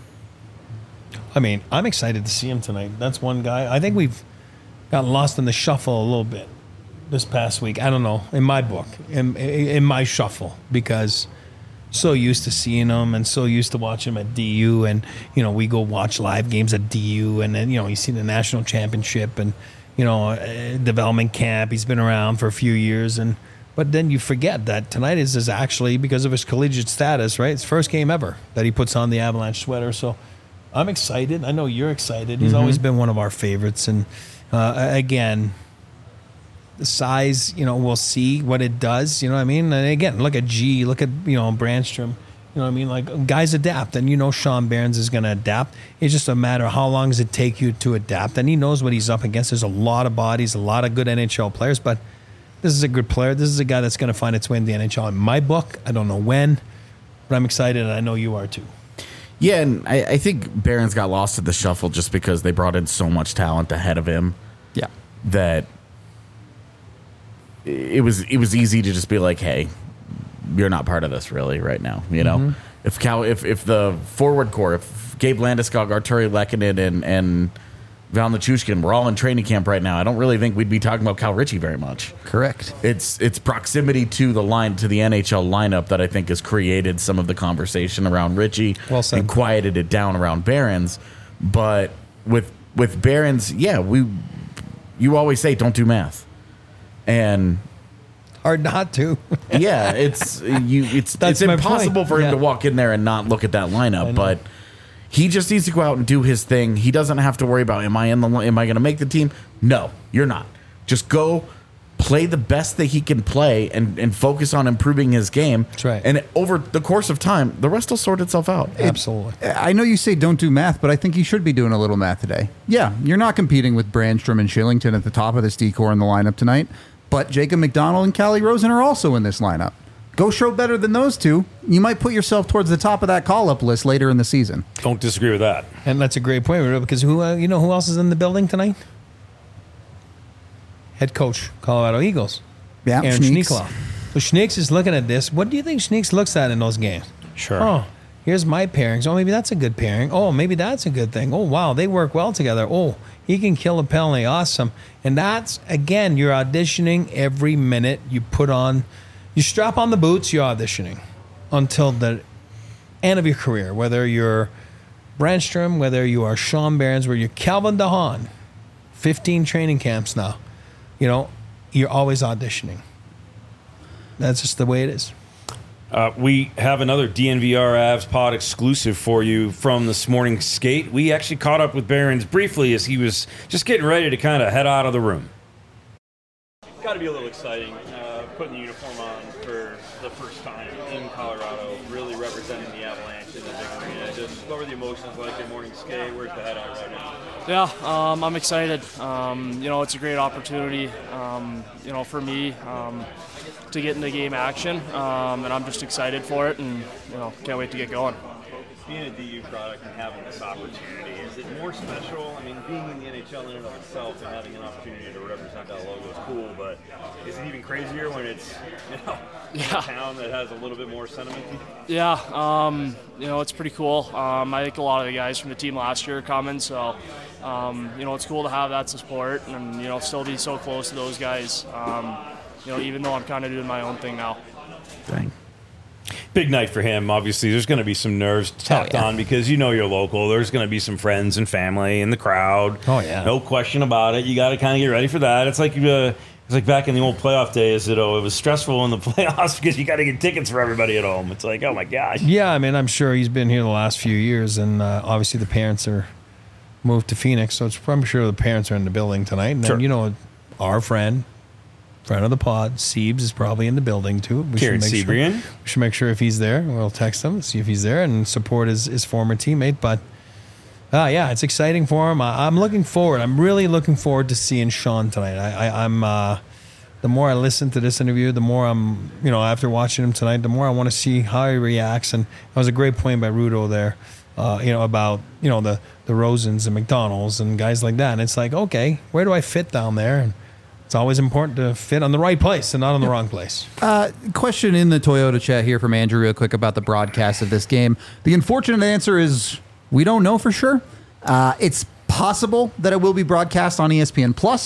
I mean, I'm excited to see him tonight. That's one guy. I think we've gotten lost in the shuffle a little bit this past week. I don't know, in my book, in my shuffle, because so used to seeing him and so used to watching him at DU. And, we go watch live games at DU. And then, you see the national championship and, development camp. He's been around for a few years. But then you forget that tonight is actually, because of his collegiate status, right? It's first game ever that he puts on the Avalanche sweater. So I'm excited. I know you're excited. He's always been one of our favorites. And again, the size, we'll see what it does. You know what I mean? And again, look at G, look at, Brandstrom. You know what I mean? Like, guys adapt. And Sean Behrens is going to adapt. It's just a matter of how long does it take you to adapt. And he knows what he's up against. There's a lot of bodies, a lot of good NHL players. But this is a good player. This is a guy that's going to find its way in the NHL. In my book, I don't know when, but I'm excited, and I know you are too. Yeah, and I think Behrens got lost in the shuffle just because they brought in so much talent ahead of him. Yeah. That it was easy to just be like, hey, you're not part of this really right now. If the forward core, if Gabe Landeskog, Arturi Lehkonen, and Val Nichushkin were all in training camp right now, I don't really think we'd be talking about Cal Ritchie very much. Correct. It's proximity to the NHL lineup that I think has created some of the conversation around Ritchie. Well said. And quieted it down around Behrens. But with Behrens, you always say don't do math. And hard not to. Yeah, it's impossible for him to walk in there and not look at that lineup, but he just needs to go out and do his thing. He doesn't have to worry about am I going to make the team? No, you're not. Just go play the best that he can play and focus on improving his game. That's right. And over the course of time, the rest will sort itself out. Absolutely. I know you say don't do math, but I think you should be doing a little math today. Yeah, you're not competing with Brandstrom and Shillington at the top of this D-core in the lineup tonight, but Jacob McDonald and Callie Rosen are also in this lineup. Go show better than those two. You might put yourself towards the top of that call-up list later in the season. Don't disagree with that. And that's a great point, because who else is in the building tonight? Head coach, Colorado Eagles. Yeah, Aaron Schneeks. Schneekloff. So Schneeks is looking at this. What do you think Schneeks looks at in those games? Sure. Oh, here's my pairings. Oh, maybe that's a good pairing. Oh, maybe that's a good thing. Oh, wow, they work well together. Oh, he can kill a penalty. Awesome. And that's, again, you're auditioning every minute you put on. You strap on the boots, you're auditioning until the end of your career, whether you're Brandstrom, whether you are Sean Behrens, whether you're Calvin DeHaan, 15 training camps now. You're always auditioning. That's just the way it is. We have another DNVR Avs pod exclusive for you from this morning's skate. We actually caught up with Behrens briefly as he was just getting ready to kind of head out of the room. Got to be a little exciting putting the uniform on for the first time in Colorado, really representing the Avalanche in the big arena. Just what were the emotions like in morning skate? Where's the head at right now? Yeah, I'm excited. It's a great opportunity, for me to get into game action, and I'm just excited for it, and can't wait to get going. Being a DU product and having this opportunity, is it more special? I mean, being in the NHL in and of itself and having an opportunity to represent that logo is cool, but is it even crazier when it's a town that has a little bit more sentiment? Yeah, it's pretty cool. I think a lot of the guys from the team last year are coming, so it's cool to have that support and still be so close to those guys. Even though I'm kind of doing my own thing now. Dang. Big night for him. Obviously, there's going to be some nerves tapped on because you're local. There's going to be some friends and family in the crowd. Oh, yeah. No question about it. You got to kind of get ready for that. It's like back in the old playoff days. It was stressful in the playoffs because you got to get tickets for everybody at home. It's like, oh, my gosh. Yeah, I mean, I'm sure he's been here the last few years, and obviously the parents are moved to Phoenix, so I'm sure the parents are in the building tonight. And then, our friend of the pod, Siebes, is probably in the building too. We should make sure if he's there, we'll text him, see if he's there, and support his former teammate. But it's exciting for him. I'm looking forward. I'm really looking forward to seeing Sean tonight. I'm the more I listen to this interview, the more I'm, after watching him tonight, the more I want to see how he reacts. And that was a great point by Rudo there, about the Rosens and McDonald's and guys like that. And it's like, okay, where do I fit down there? And it's always important to fit on the right place and not on the wrong place. Question in the Toyota chat here from Andrew real quick about the broadcast of this game. The unfortunate answer is we don't know for sure. It's possible that it will be broadcast on ESPN Plus.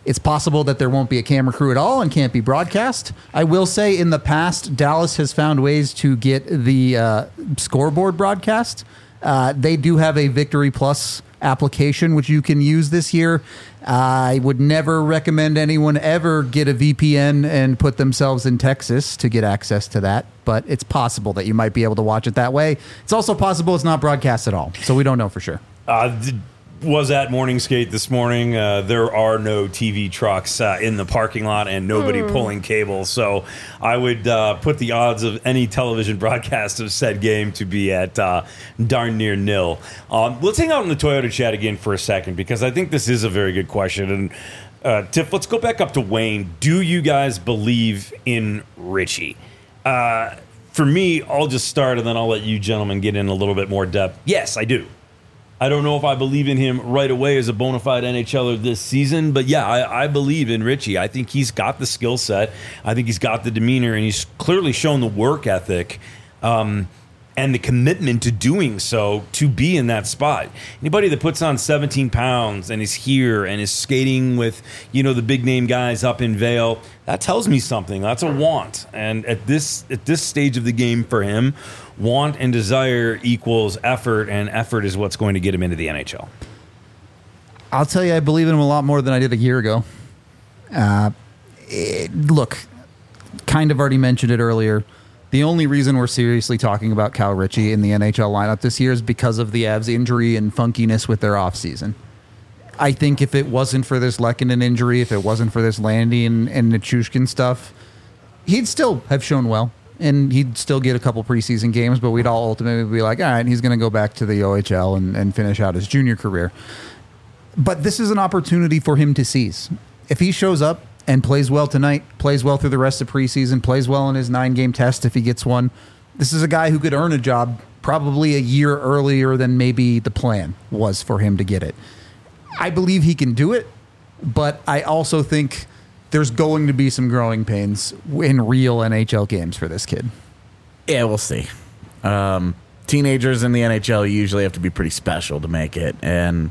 It's possible that there won't be a camera crew at all and can't be broadcast. I will say in the past, Dallas has found ways to get the scoreboard broadcast. They do have a Victory Plus application which you can use this year. I would never recommend anyone ever get a VPN and put themselves in Texas to get access to that, but it's possible that you might be able to watch it that way. It's also possible it's not broadcast at all, so we don't know for sure. Was at morning skate this morning. There are no TV trucks in the parking lot and nobody pulling cables. So I would put the odds of any television broadcast of said game to be at darn near nil. Let's hang out in the Toyota chat again for a second, because I think this is a very good question. And Tiff, let's go back up to Wayne. Do you guys believe in Richie? For me, I'll just start and then I'll let you gentlemen get in a little bit more depth. Yes, I do. I don't know if I believe in him right away as a bona fide NHLer this season, but yeah, I believe in Richie. I think he's got the skill set. I think he's got the demeanor, and he's clearly shown the work ethic and the commitment to doing so to be in that spot. Anybody that puts on 17 pounds and is here and is skating with, the big name guys up in Vail, that tells me something. That's a want. And at this stage of the game for him, want and desire equals effort, and effort is what's going to get him into the NHL. I'll tell you, I believe in him a lot more than I did a year ago. Look, kind of already mentioned it earlier. The only reason we're seriously talking about Cal Ritchie in the NHL lineup this year is because of the Avs injury and funkiness with their offseason. I think if it wasn't for this Lehkonen injury, if it wasn't for this Landy and Nichushkin stuff, he'd still have shown well, and he'd still get a couple preseason games, but we'd all ultimately be like, all right, he's going to go back to the OHL and finish out his junior career. But this is an opportunity for him to seize. If he shows up and plays well tonight, plays well through the rest of preseason, plays well in his 9-game test if he gets one, this is a guy who could earn a job probably a year earlier than maybe the plan was for him to get it. I believe he can do it, but I also think there's going to be some growing pains in real NHL games for this kid. Yeah, we'll see. Teenagers in the NHL usually have to be pretty special to make it, and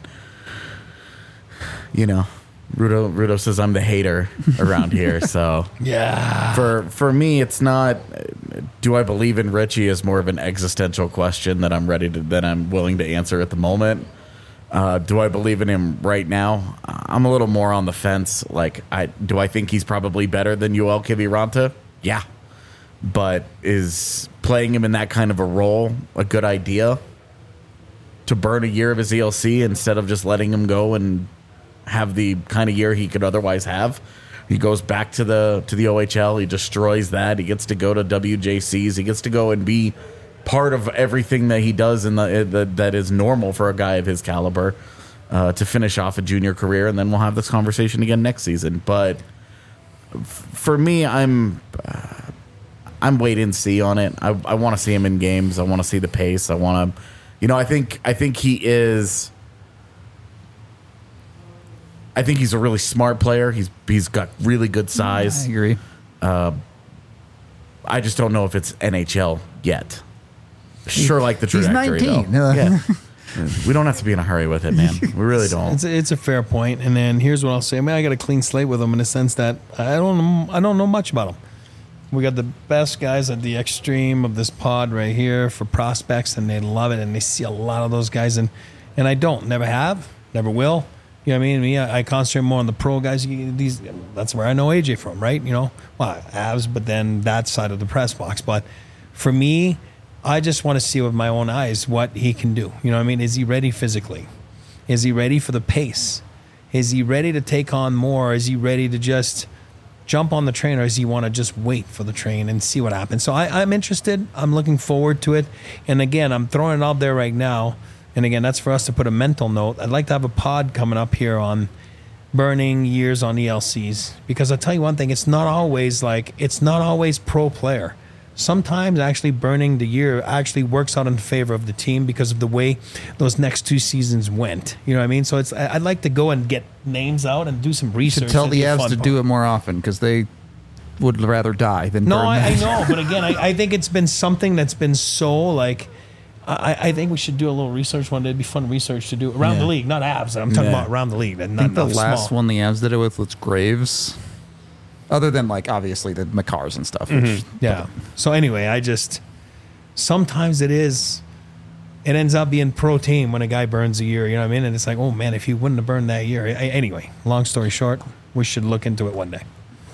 Rudo says I'm the hater around here, so Yeah. For me, it's not. Do I believe in Richie is more of an existential question that I'm willing to answer at the moment. Do I believe in him right now? I'm a little more on the fence. Do I think he's probably better than Yoel Kiviranta? Yeah, but is playing him in that kind of a role a good idea? To burn a year of his ELC instead of just letting him go and have the kind of year he could otherwise have. He goes back to the OHL. He destroys that. He gets to go to WJCs. He gets to go and be part of everything that he does that is normal for a guy of his caliber to finish off a junior career. And then we'll have this conversation again next season. But for me, I'm wait and see on it. I want to see him in games. I want to see the pace. I want to, I think he is. I think he's a really smart player. He's got really good size. I agree. I just don't know if it's NHL yet. Sure, like the trajectory. He's 19. Though. Yeah. We don't have to be in a hurry with it, man. We really don't. It's a fair point. And then here's what I'll say. I got a clean slate with him in the sense that I don't know much about him. We got the best guys at the extreme of this pod right here for prospects, and they love it, and they see a lot of those guys, and I don't, never have, never will. You know what I mean? I concentrate more on the pro guys. That's where I know AJ from, right? Avs, but then that side of the press box. But for me, I just want to see with my own eyes what he can do. You know what I mean? Is he ready physically? Is he ready for the pace? Is he ready to take on more? Is he ready to just jump on the train, or does he want to just wait for the train and see what happens? So I'm interested. I'm looking forward to it. And again, I'm throwing it out there right now. And again, that's for us to put a mental note. I'd like to have a pod coming up here on burning years on ELCs, because I'll tell you one thing, it's not always pro player. Sometimes actually burning the year actually works out in favor of the team because of the way those next 2 seasons went. You know what I mean? So I'd like to go and get names out and do some research. You should tell the Avs to do it more often, because they would rather die than burn. No, I know, but again, I think it's been something that's been so I think we should do a little research one day. It'd be fun research to do around the league, not Avs. I'm talking about around the league. And I think the not last small. one the Avs did it with was Graves. Other than, like, obviously the Makars and stuff. Which, Yeah. So anyway, sometimes it ends up being pro team when a guy burns a year, you know what I mean? And it's like, oh man, if he wouldn't have burned that year. Anyway, long story short, we should look into it one day.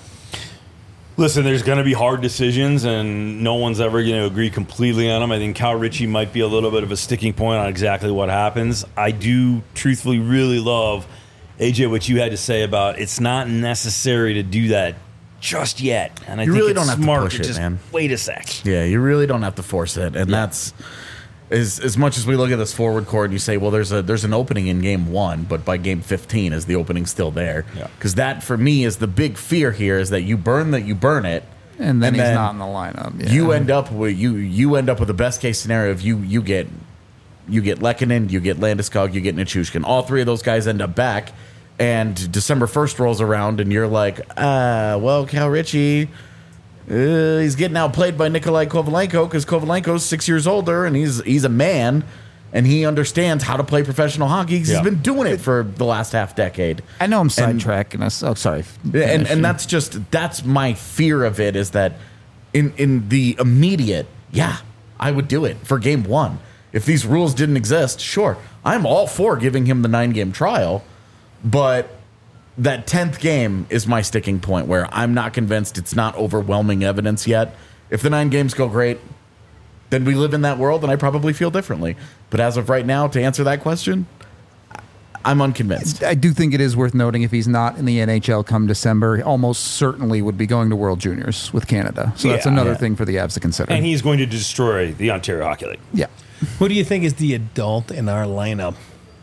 Listen, there's going to be hard decisions, and no one's ever going to agree completely on them. I think Cal Ritchie might be a little bit of a sticking point on exactly what happens. I do truthfully really love, AJ, what you had to say about it's not necessary to do that just yet. And I You think really it's don't have to smart push it, just man. wait a sec. Yeah, you really don't have to force it, and that's as much as we look at this forward court and you say, well, there's an opening in game 1, but by game 15, is the opening still there? Yeah. Because that for me is the big fear here is that you burn it, and then he's not in the lineup. Yeah. you end up with the best case scenario of you get Lehkonen, you get Landeskog, you get Nichushkin. All three of those guys end up back, and December 1st rolls around, and you're like, well, Cal Ritchie. He's getting outplayed by Nikolai Kovalenko because Kovalenko's 6 years older and he's a man and he understands how to play professional hockey because he's been doing it for the last half decade. I know I'm sidetracking us. Oh, sorry. And that's my fear of it is that in the immediate, I would do it for game 1. If these rules didn't exist, sure, I'm all for giving him the 9-game trial, but that 10th game is my sticking point where I'm not convinced it's not overwhelming evidence yet. If the 9 games go great, then we live in that world and I probably feel differently. But as of right now, to answer that question, I'm unconvinced. I do think it is worth noting if he's not in the NHL come December, he almost certainly would be going to World Juniors with Canada. So that's another thing for the Avs to consider. And he's going to destroy the Ontario Hockey League. Yeah. Who do you think is the adult in our lineup?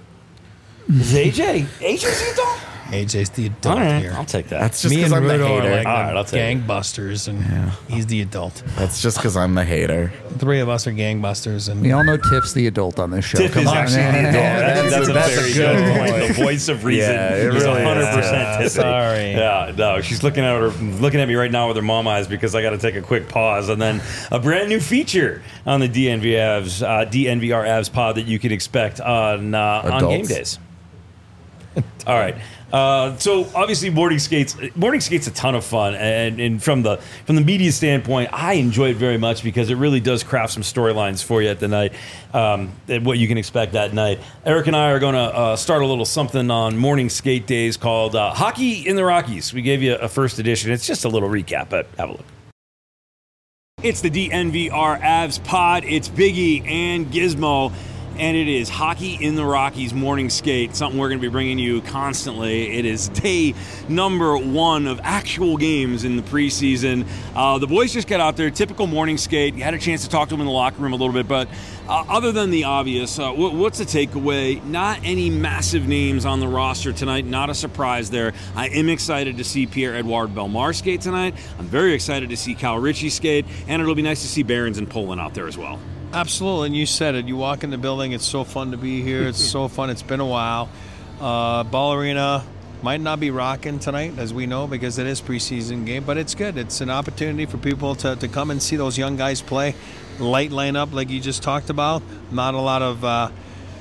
Is AJ? AJ's the adult? AJ's the adult All right, here. I'll take that. That's just Me because and I'm the Rudo hater. are like All right, I'll the take it. gangbusters, and he's the adult. That's just because I'm the hater. The three of us are gangbusters, and We all know Tiff's the adult on this show. Tiff Come is on. actually the adult. That's a that's a very good good point. point. The voice of reason. Yeah, it He's really is. 100% Tiffany. Sorry. Yeah, no, she's looking at me right now with her mom eyes because I got to take a quick pause, and then a brand new feature on the DNVR Avs pod that you can expect on game days. All right. So obviously morning skate's a ton of fun, and from the media standpoint, I enjoy it very much because it really does craft some storylines for you at the night, and what you can expect that night. Eric and I are going to start a little something on morning skate days called Hockey in the Rockies. We gave you a first edition. It's just a little recap, but have a look. It's the DNVR Avs pod. It's Biggie and Gizmo. And it is Hockey in the Rockies morning skate, something we're going to be bringing you constantly. It is day number 1 of actual games in the preseason. The boys just got out there, typical morning skate. You had a chance to talk to them in the locker room a little bit, but other than the obvious, what's the takeaway? Not any massive names on the roster tonight, not a surprise there. I am excited to see Pierre-Edouard Bellemare skate tonight. I'm very excited to see Cal Ritchie skate, and it'll be nice to see Behrens and Poland out there as well. absolutely. And you said it. You walk in the building. It's so fun to be here. It's so fun. It's been a while. Ball Arena might not be rocking tonight, as we know, because it is preseason game, but it's good. It's an opportunity for people to come and see those young guys play. Light lineup, like you just talked about. Not a lot of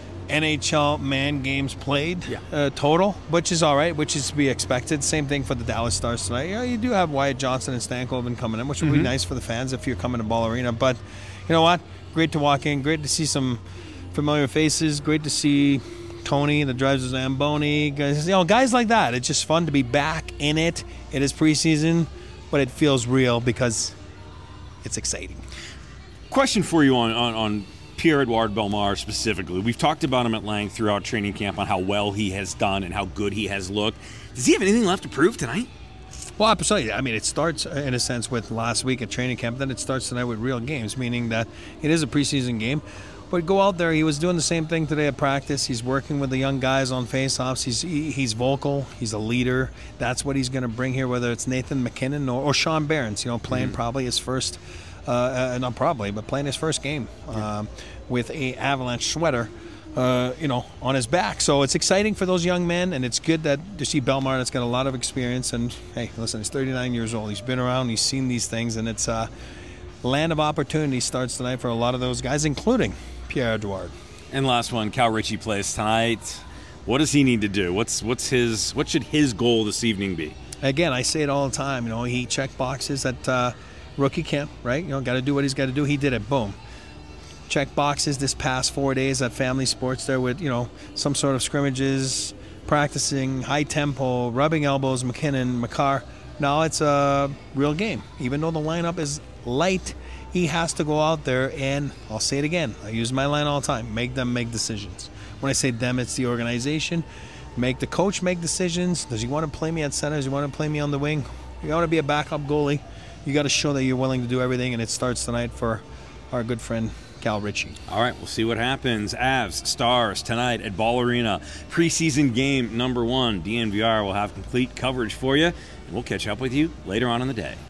NHL man games played total, which is all right, which is to be expected. Same thing for the Dallas Stars tonight. Yeah, you do have Wyatt Johnson and Stankoven coming in, which would be nice for the fans if you're coming to Ball Arena. But you know what? Great to walk in. Great to see some familiar faces. Great to see Tony that drives the Zamboni. Guys like that. It's just fun to be back in it. It is preseason, but it feels real because it's exciting. Question for you on Pierre-Edouard Bellemare specifically. We've talked about him at length throughout training camp on how well he has done and how good he has looked. Does he have anything left to prove tonight? Well, absolutely. I mean, it starts in a sense with last week at training camp. Then it starts tonight with real games, meaning that it is a preseason game. But go out there. He was doing the same thing today at practice. He's working with the young guys on face-offs. He's vocal. He's a leader. That's what he's going to bring here, whether it's Nathan MacKinnon or Sean Behrens, playing probably his first not probably, but playing his first game with a Avalanche sweater, on his back. So it's exciting for those young men, and it's good to see Bellemare that's got a lot of experience. And hey, listen, he's 39 years old. He's been around. He's seen these things, and it's land of opportunity starts tonight for a lot of those guys, including Pierre-Edouard. And last one, Cal Ritchie plays tonight. What does he need to do? What should his goal this evening be? Again, I say it all the time. He checked boxes at rookie camp, right? Got to do what he's got to do. He did it. Boom. Check boxes this past 4 days at Family Sports there with, some sort of scrimmages, practicing, high tempo, rubbing elbows, McKinnon, Makar. Now it's a real game. Even though the lineup is light, he has to go out there and, I'll say it again, I use my line all the time, make them make decisions. When I say them, it's the organization. Make the coach make decisions. Does he want to play me at center? Does he want to play me on the wing? You want to be a backup goalie. You got to show that you're willing to do everything, and it starts tonight for our good friend Cal Ritchie. All right, we'll see what happens. Avs, Stars, tonight at Ball Arena. Preseason game number 1. DNVR will have complete coverage for you, and we'll catch up with you later on in the day.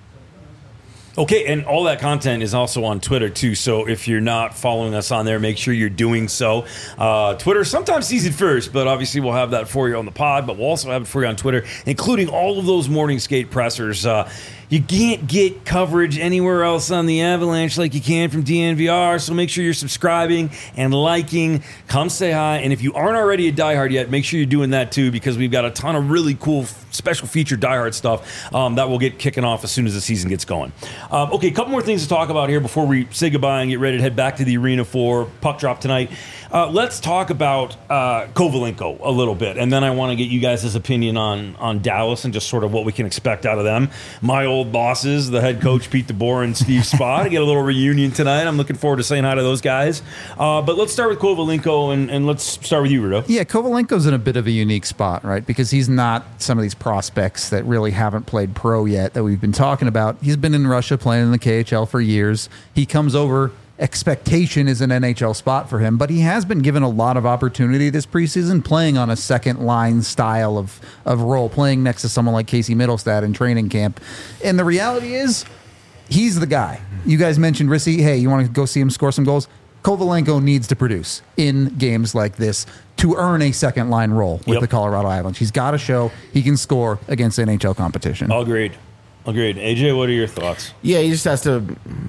Okay, and all that content is also on Twitter, too. So if you're not following us on there, make sure you're doing so. Twitter sometimes sees it first, but obviously we'll have that for you on the pod. But we'll also have it for you on Twitter, including all of those morning skate pressers. You can't get coverage anywhere else on the Avalanche like you can from DNVR, so make sure you're subscribing and liking. Come say hi, and if you aren't already a diehard yet, make sure you're doing that too, because we've got a ton of really cool special feature diehard stuff that will get kicking off as soon as the season gets going. Okay, a couple more things to talk about here before we say goodbye and get ready to head back to the arena for puck drop tonight. Let's talk about Kovalenko a little bit, and then I want to get you guys' opinion on Dallas and just sort of what we can expect out of them. My old bosses, the head coach Pete DeBoer and Steve Spa, to get a little reunion tonight. I'm looking forward to saying hi to those guys. But let's start with Kovalenko, and let's start with you, Rudo. Yeah, Kovalenko's in a bit of a unique spot, right? Because he's not some of these prospects that really haven't played pro yet that we've been talking about. He's been in Russia playing in the KHL for years. He comes over. Expectation is an NHL spot for him, but he has been given a lot of opportunity this preseason playing on a second line style of role, playing next to someone like Casey Middlestad in training camp. And the reality is, he's the guy. You guys mentioned Rissy. Hey, you want to go see him score some goals? Kovalenko needs to produce in games like this to earn a second line role with the Colorado Avalanche. He's got to show he can score against NHL competition. Agreed. AJ, what are your thoughts? Yeah, he just has to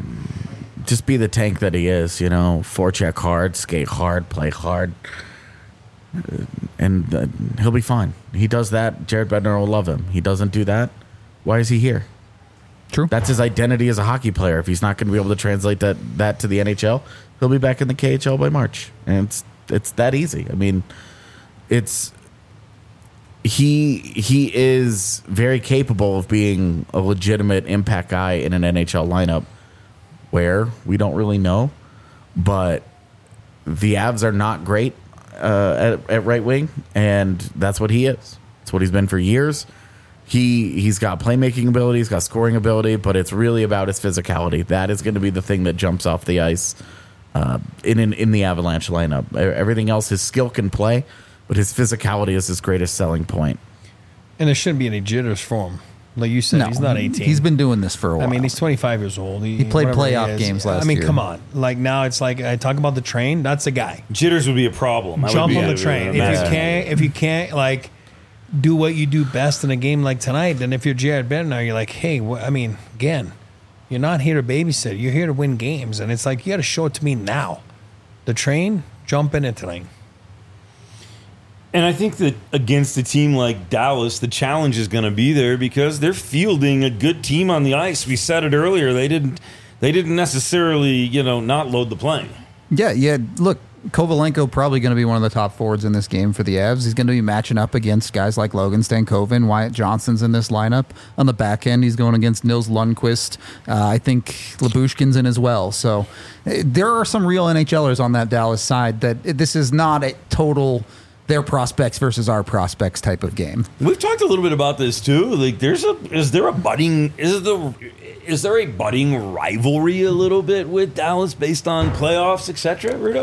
just be the tank that he is, forecheck hard, skate hard, play hard, and he'll be fine. He does that, Jared Bednar will love him. He doesn't do that, why is he here? True. That's his identity as a hockey player. If he's not going to be able to translate that to the NHL, he'll be back in the KHL by March. And it's that easy. I mean, he is very capable of being a legitimate impact guy in an NHL lineup. Where we don't really know, but the Avs are not great at right wing, and that's what he is. It's what he's been for years. He's got playmaking ability, he's got scoring ability, but it's really about his physicality. That is going to be the thing that jumps off the ice in the Avalanche lineup. Everything else, his skill can play, but his physicality is his greatest selling point. And there shouldn't be any jitters for him. Like you said, No, he's not 18. He's been doing this for a while. I mean, he's 25 years old. He played whatever he playoff is. games last I mean, year. come on. Like now it's like I talk about the train. That's the guy. Jitters would be a problem. Jump on the train. If you can't like do what you do best in a game like tonight, then if you're Jared Bednar, you're like, hey, again, you're not here to babysit. You're here to win games, and it's like you got to show it to me now. The train, jump in it tonight. And I think that against a team like Dallas, the challenge is going to be there because they're fielding a good team on the ice. We said it earlier; they didn't necessarily, not load the plane. Yeah. Look, Kovalenko probably going to be one of the top forwards in this game for the Avs. He's going to be matching up against guys like Logan Stankoven, Wyatt Johnson's in this lineup. On the back end, he's going against Nils Lundqvist. I think Labushkin's in as well. So there are some real NHLers on that Dallas side. That this is not a total their prospects versus our prospects type of game. We've talked a little bit about this too. Like, is there a budding rivalry a little bit with Dallas based on playoffs, etc., Rudo?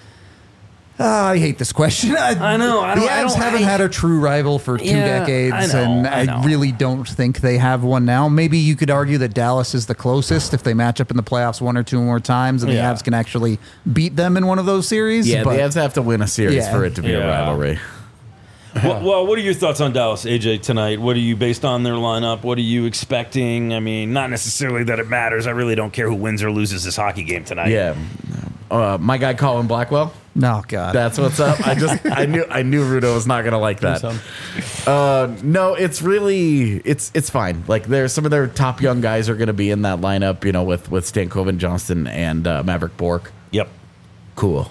I hate this question. I know. The Avs haven't had a true rival for 2 decades, I really don't think they have one now. Maybe you could argue that Dallas is the closest if they match up in the playoffs 1 or 2 more times, and the Avs can actually beat them in one of those series. Yeah, the Avs have to win a series for it to be a rivalry. Well, what are your thoughts on Dallas, AJ, tonight? What are you, based on their lineup, what are you expecting? I mean, not necessarily that it matters. I really don't care who wins or loses this hockey game tonight. Yeah. My guy Colin Blackwell. No, God. That's what's up. I knew Rudo was not gonna like that. No, it's really it's fine. Like there's some of their top young guys are gonna be in that lineup, with Stankoven, Johnston, and Maverick Bork. Yep. Cool.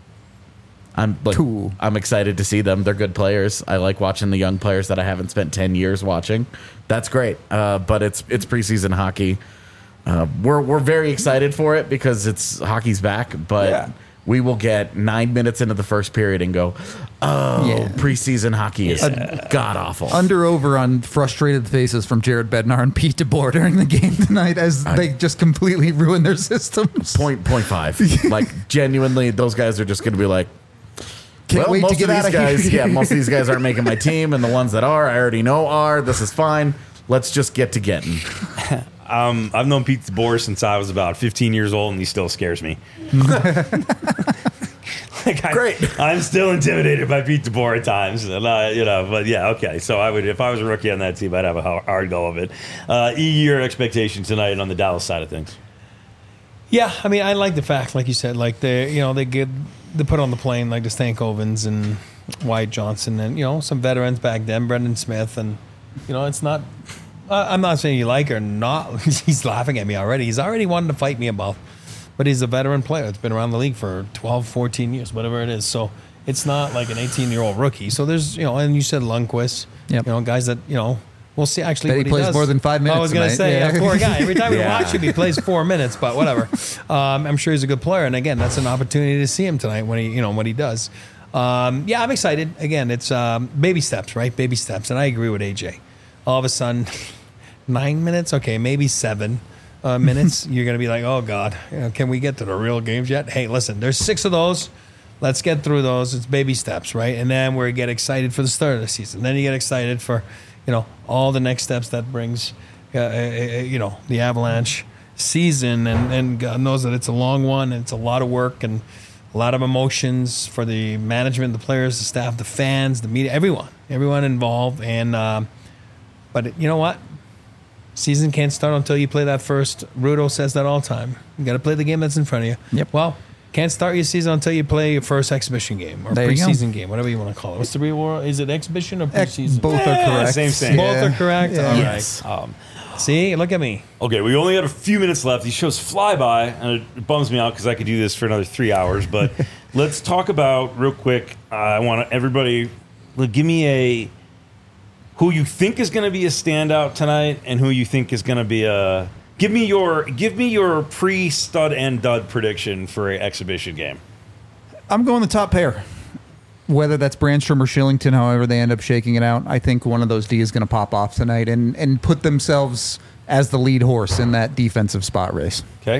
I'm excited to see them. They're good players. I like watching the young players that I haven't spent 10 years watching. That's great. But it's preseason hockey. We're very excited for it because hockey's back, but we will get 9 minutes into the first period and go, preseason hockey is god awful. Over on frustrated faces from Jared Bednar and Pete DeBoer during the game tonight as they just completely ruin their systems. 0.5. Like genuinely, those guys are just going to be like, Can't wait to get out of here. Yeah, most of these guys aren't making my team, and the ones that are, I already know are. This is fine. Let's just get to getting. I've known Pete DeBoer since I was about 15 years old, and he still scares me. Great. I'm still intimidated by Pete DeBoer at times, and but yeah, okay. So I would, if I was a rookie on that team, I'd have a hard go of it. Your expectation tonight on the Dallas side of things? Yeah, I mean, I like the fact, like you said, like they put on the plane like the Stankovens and Wyatt Johnson and some veterans back then, Brendan Smith, and it's not. I'm not saying you like or not. He's laughing at me already. He's already wanted to fight me about, but he's a veteran player. It's been around the league for 12, 14 years, whatever it is. So it's not like an 18-year-old rookie. So there's and you said Lundqvist, guys that we'll see actually Bet what he plays does. more than 5 minutes. I was going to say, tonight. poor guy. Every time we watch him, he plays 4 minutes, but whatever. I'm sure he's a good player, and again, that's an opportunity to see him tonight when he does. I'm excited. Again, it's baby steps, right? Baby steps, and I agree with AJ. All of a sudden, 9 minutes, okay, maybe 7 minutes. You're going to be like, oh God, can we get to the real games yet? Hey, listen, there's 6 of those. Let's get through those. It's baby steps, right? And then we get excited for the start of the season. Then you get excited for all the next steps that brings, the Avalanche season. And God knows that it's a long one and it's a lot of work and a lot of emotions for the management, the players, the staff, the fans, the media, everyone involved. And but you know what? Season can't start until you play that first. Rudo says that all the time. You got to play the game that's in front of you. Yep. Well, can't start your season until you play your first exhibition game or preseason game, whatever you want to call it. What's the real word? Is it exhibition or preseason? Both are correct. Same thing. Both are correct. Yeah. All right. Yes. See, look at me. Okay, we only got a few minutes left. These shows fly by, and it bums me out because I could do this for another 3 hours. But let's talk about, real quick, I want everybody, give me who you think is going to be a standout tonight and who you think is going to be a... Give me your pre-stud and dud prediction for an exhibition game. I'm going the top pair. Whether that's Brandstrom or Shillington, however they end up shaking it out, I think one of those D is going to pop off tonight and put themselves as the lead horse in that defensive spot race. Okay.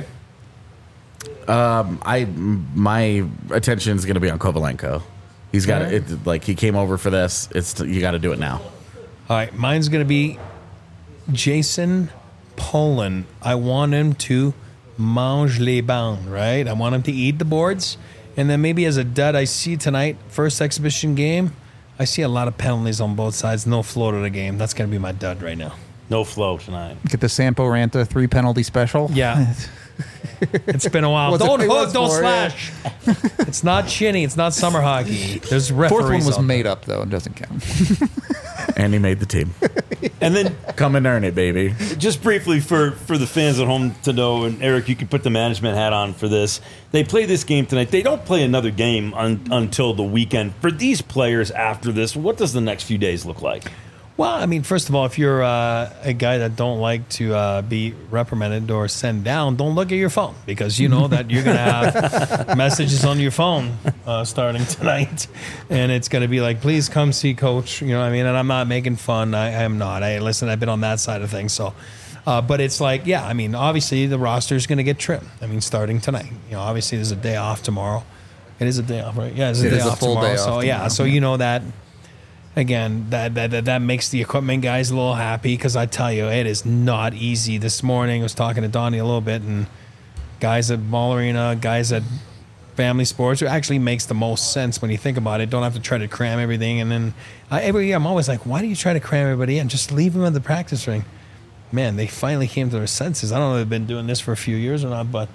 My attention is going to be on Kovalenko. He's got it. Like he came over for this. You got to do it now. All right, mine's going to be Jason Poland. I want him to mange les bancs, right? I want him to eat the boards. And then maybe as a dud, I see tonight, first exhibition game, I see a lot of penalties on both sides. No flow to the game. That's going to be my dud right now. No flow tonight. Get the Sampo Ranta 3 penalty special. Yeah. It's been a while. Was it- Don't it hook, was don't for, yeah. slash. It's not shinny. It's not summer hockey. There's referees. Fourth one was out made up, though. It doesn't count. And he made the team. And then Come and earn it, baby. just briefly for the fans at home to know, and Eric, you can put the management hat on for this. They play this game tonight. They don't play another game until the weekend. For these players after this, what does the next few days look like? Well, I mean, first of all, if you're a guy that don't like to be reprimanded or sent down, don't look at your phone because you know that you're going to have messages on your phone starting tonight. And it's going to be like, please come see coach. You know what I mean? And I'm not making fun. I am not. Listen, I've been on that side of things. So, but it's like, yeah, I mean, obviously the roster is going to get trimmed. I mean, starting tonight. Obviously there's a day off tomorrow. It is a day off, right? Yeah, it's a day off tomorrow. Day so, off yeah, tomorrow. so you know that. Again, that makes the equipment guys a little happy because I tell you, it is not easy. This morning I was talking to Donnie a little bit, and guys at Ball Arena, guys at Family Sports, it actually makes the most sense when you think about it. Don't have to try to cram everything. And then every year I'm always like, why do you try to cram everybody in? Just leave them at the practice ring. Man, they finally came to their senses. I don't know if they've been doing this for a few years or not, but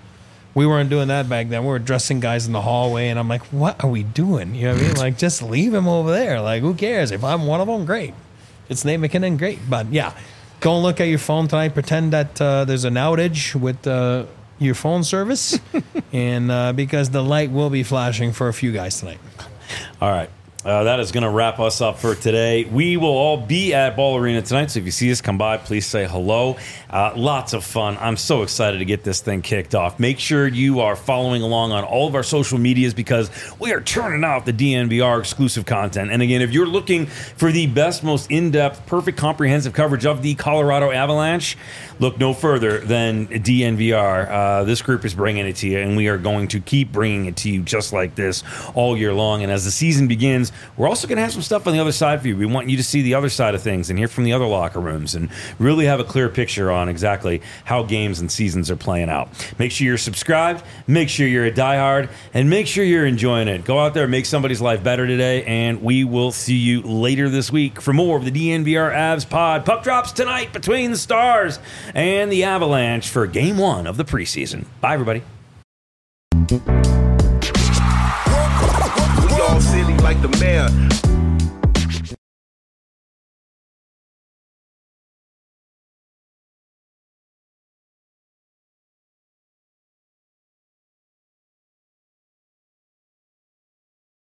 We weren't doing that back then. We were dressing guys in the hallway, and I'm like, what are we doing? You know what I mean? Like, just leave him over there. Like, who cares? If I'm one of them, great. If it's Nate MacKinnon, great. But, yeah, don't look at your phone tonight. Pretend that there's an outage with your phone service, and because the light will be flashing for a few guys tonight. All right. That is going to wrap us up for today. We will all be at Ball Arena tonight, so if you see us come by, please say hello. Lots of fun. I'm so excited to get this thing kicked off. Make sure you are following along on all of our social medias because we are turning out the DNVR exclusive content. And again, if you're looking for the best, most in-depth, perfect, comprehensive coverage of the Colorado Avalanche, look no further than DNVR. This group is bringing it to you, and we are going to keep bringing it to you just like this all year long. And as the season begins, we're also going to have some stuff on the other side for you. We want you to see the other side of things and hear from the other locker rooms and really have a clear picture on exactly how games and seasons are playing out. Make sure you're subscribed, make sure you're a diehard, and make sure you're enjoying it. Go out there and make somebody's life better today, and we will see you later this week for more of the DNVR Avs pod. Puck drops tonight between the Stars and the Avalanche for Game 1 of the preseason. Bye, everybody. We all silly like the mayor.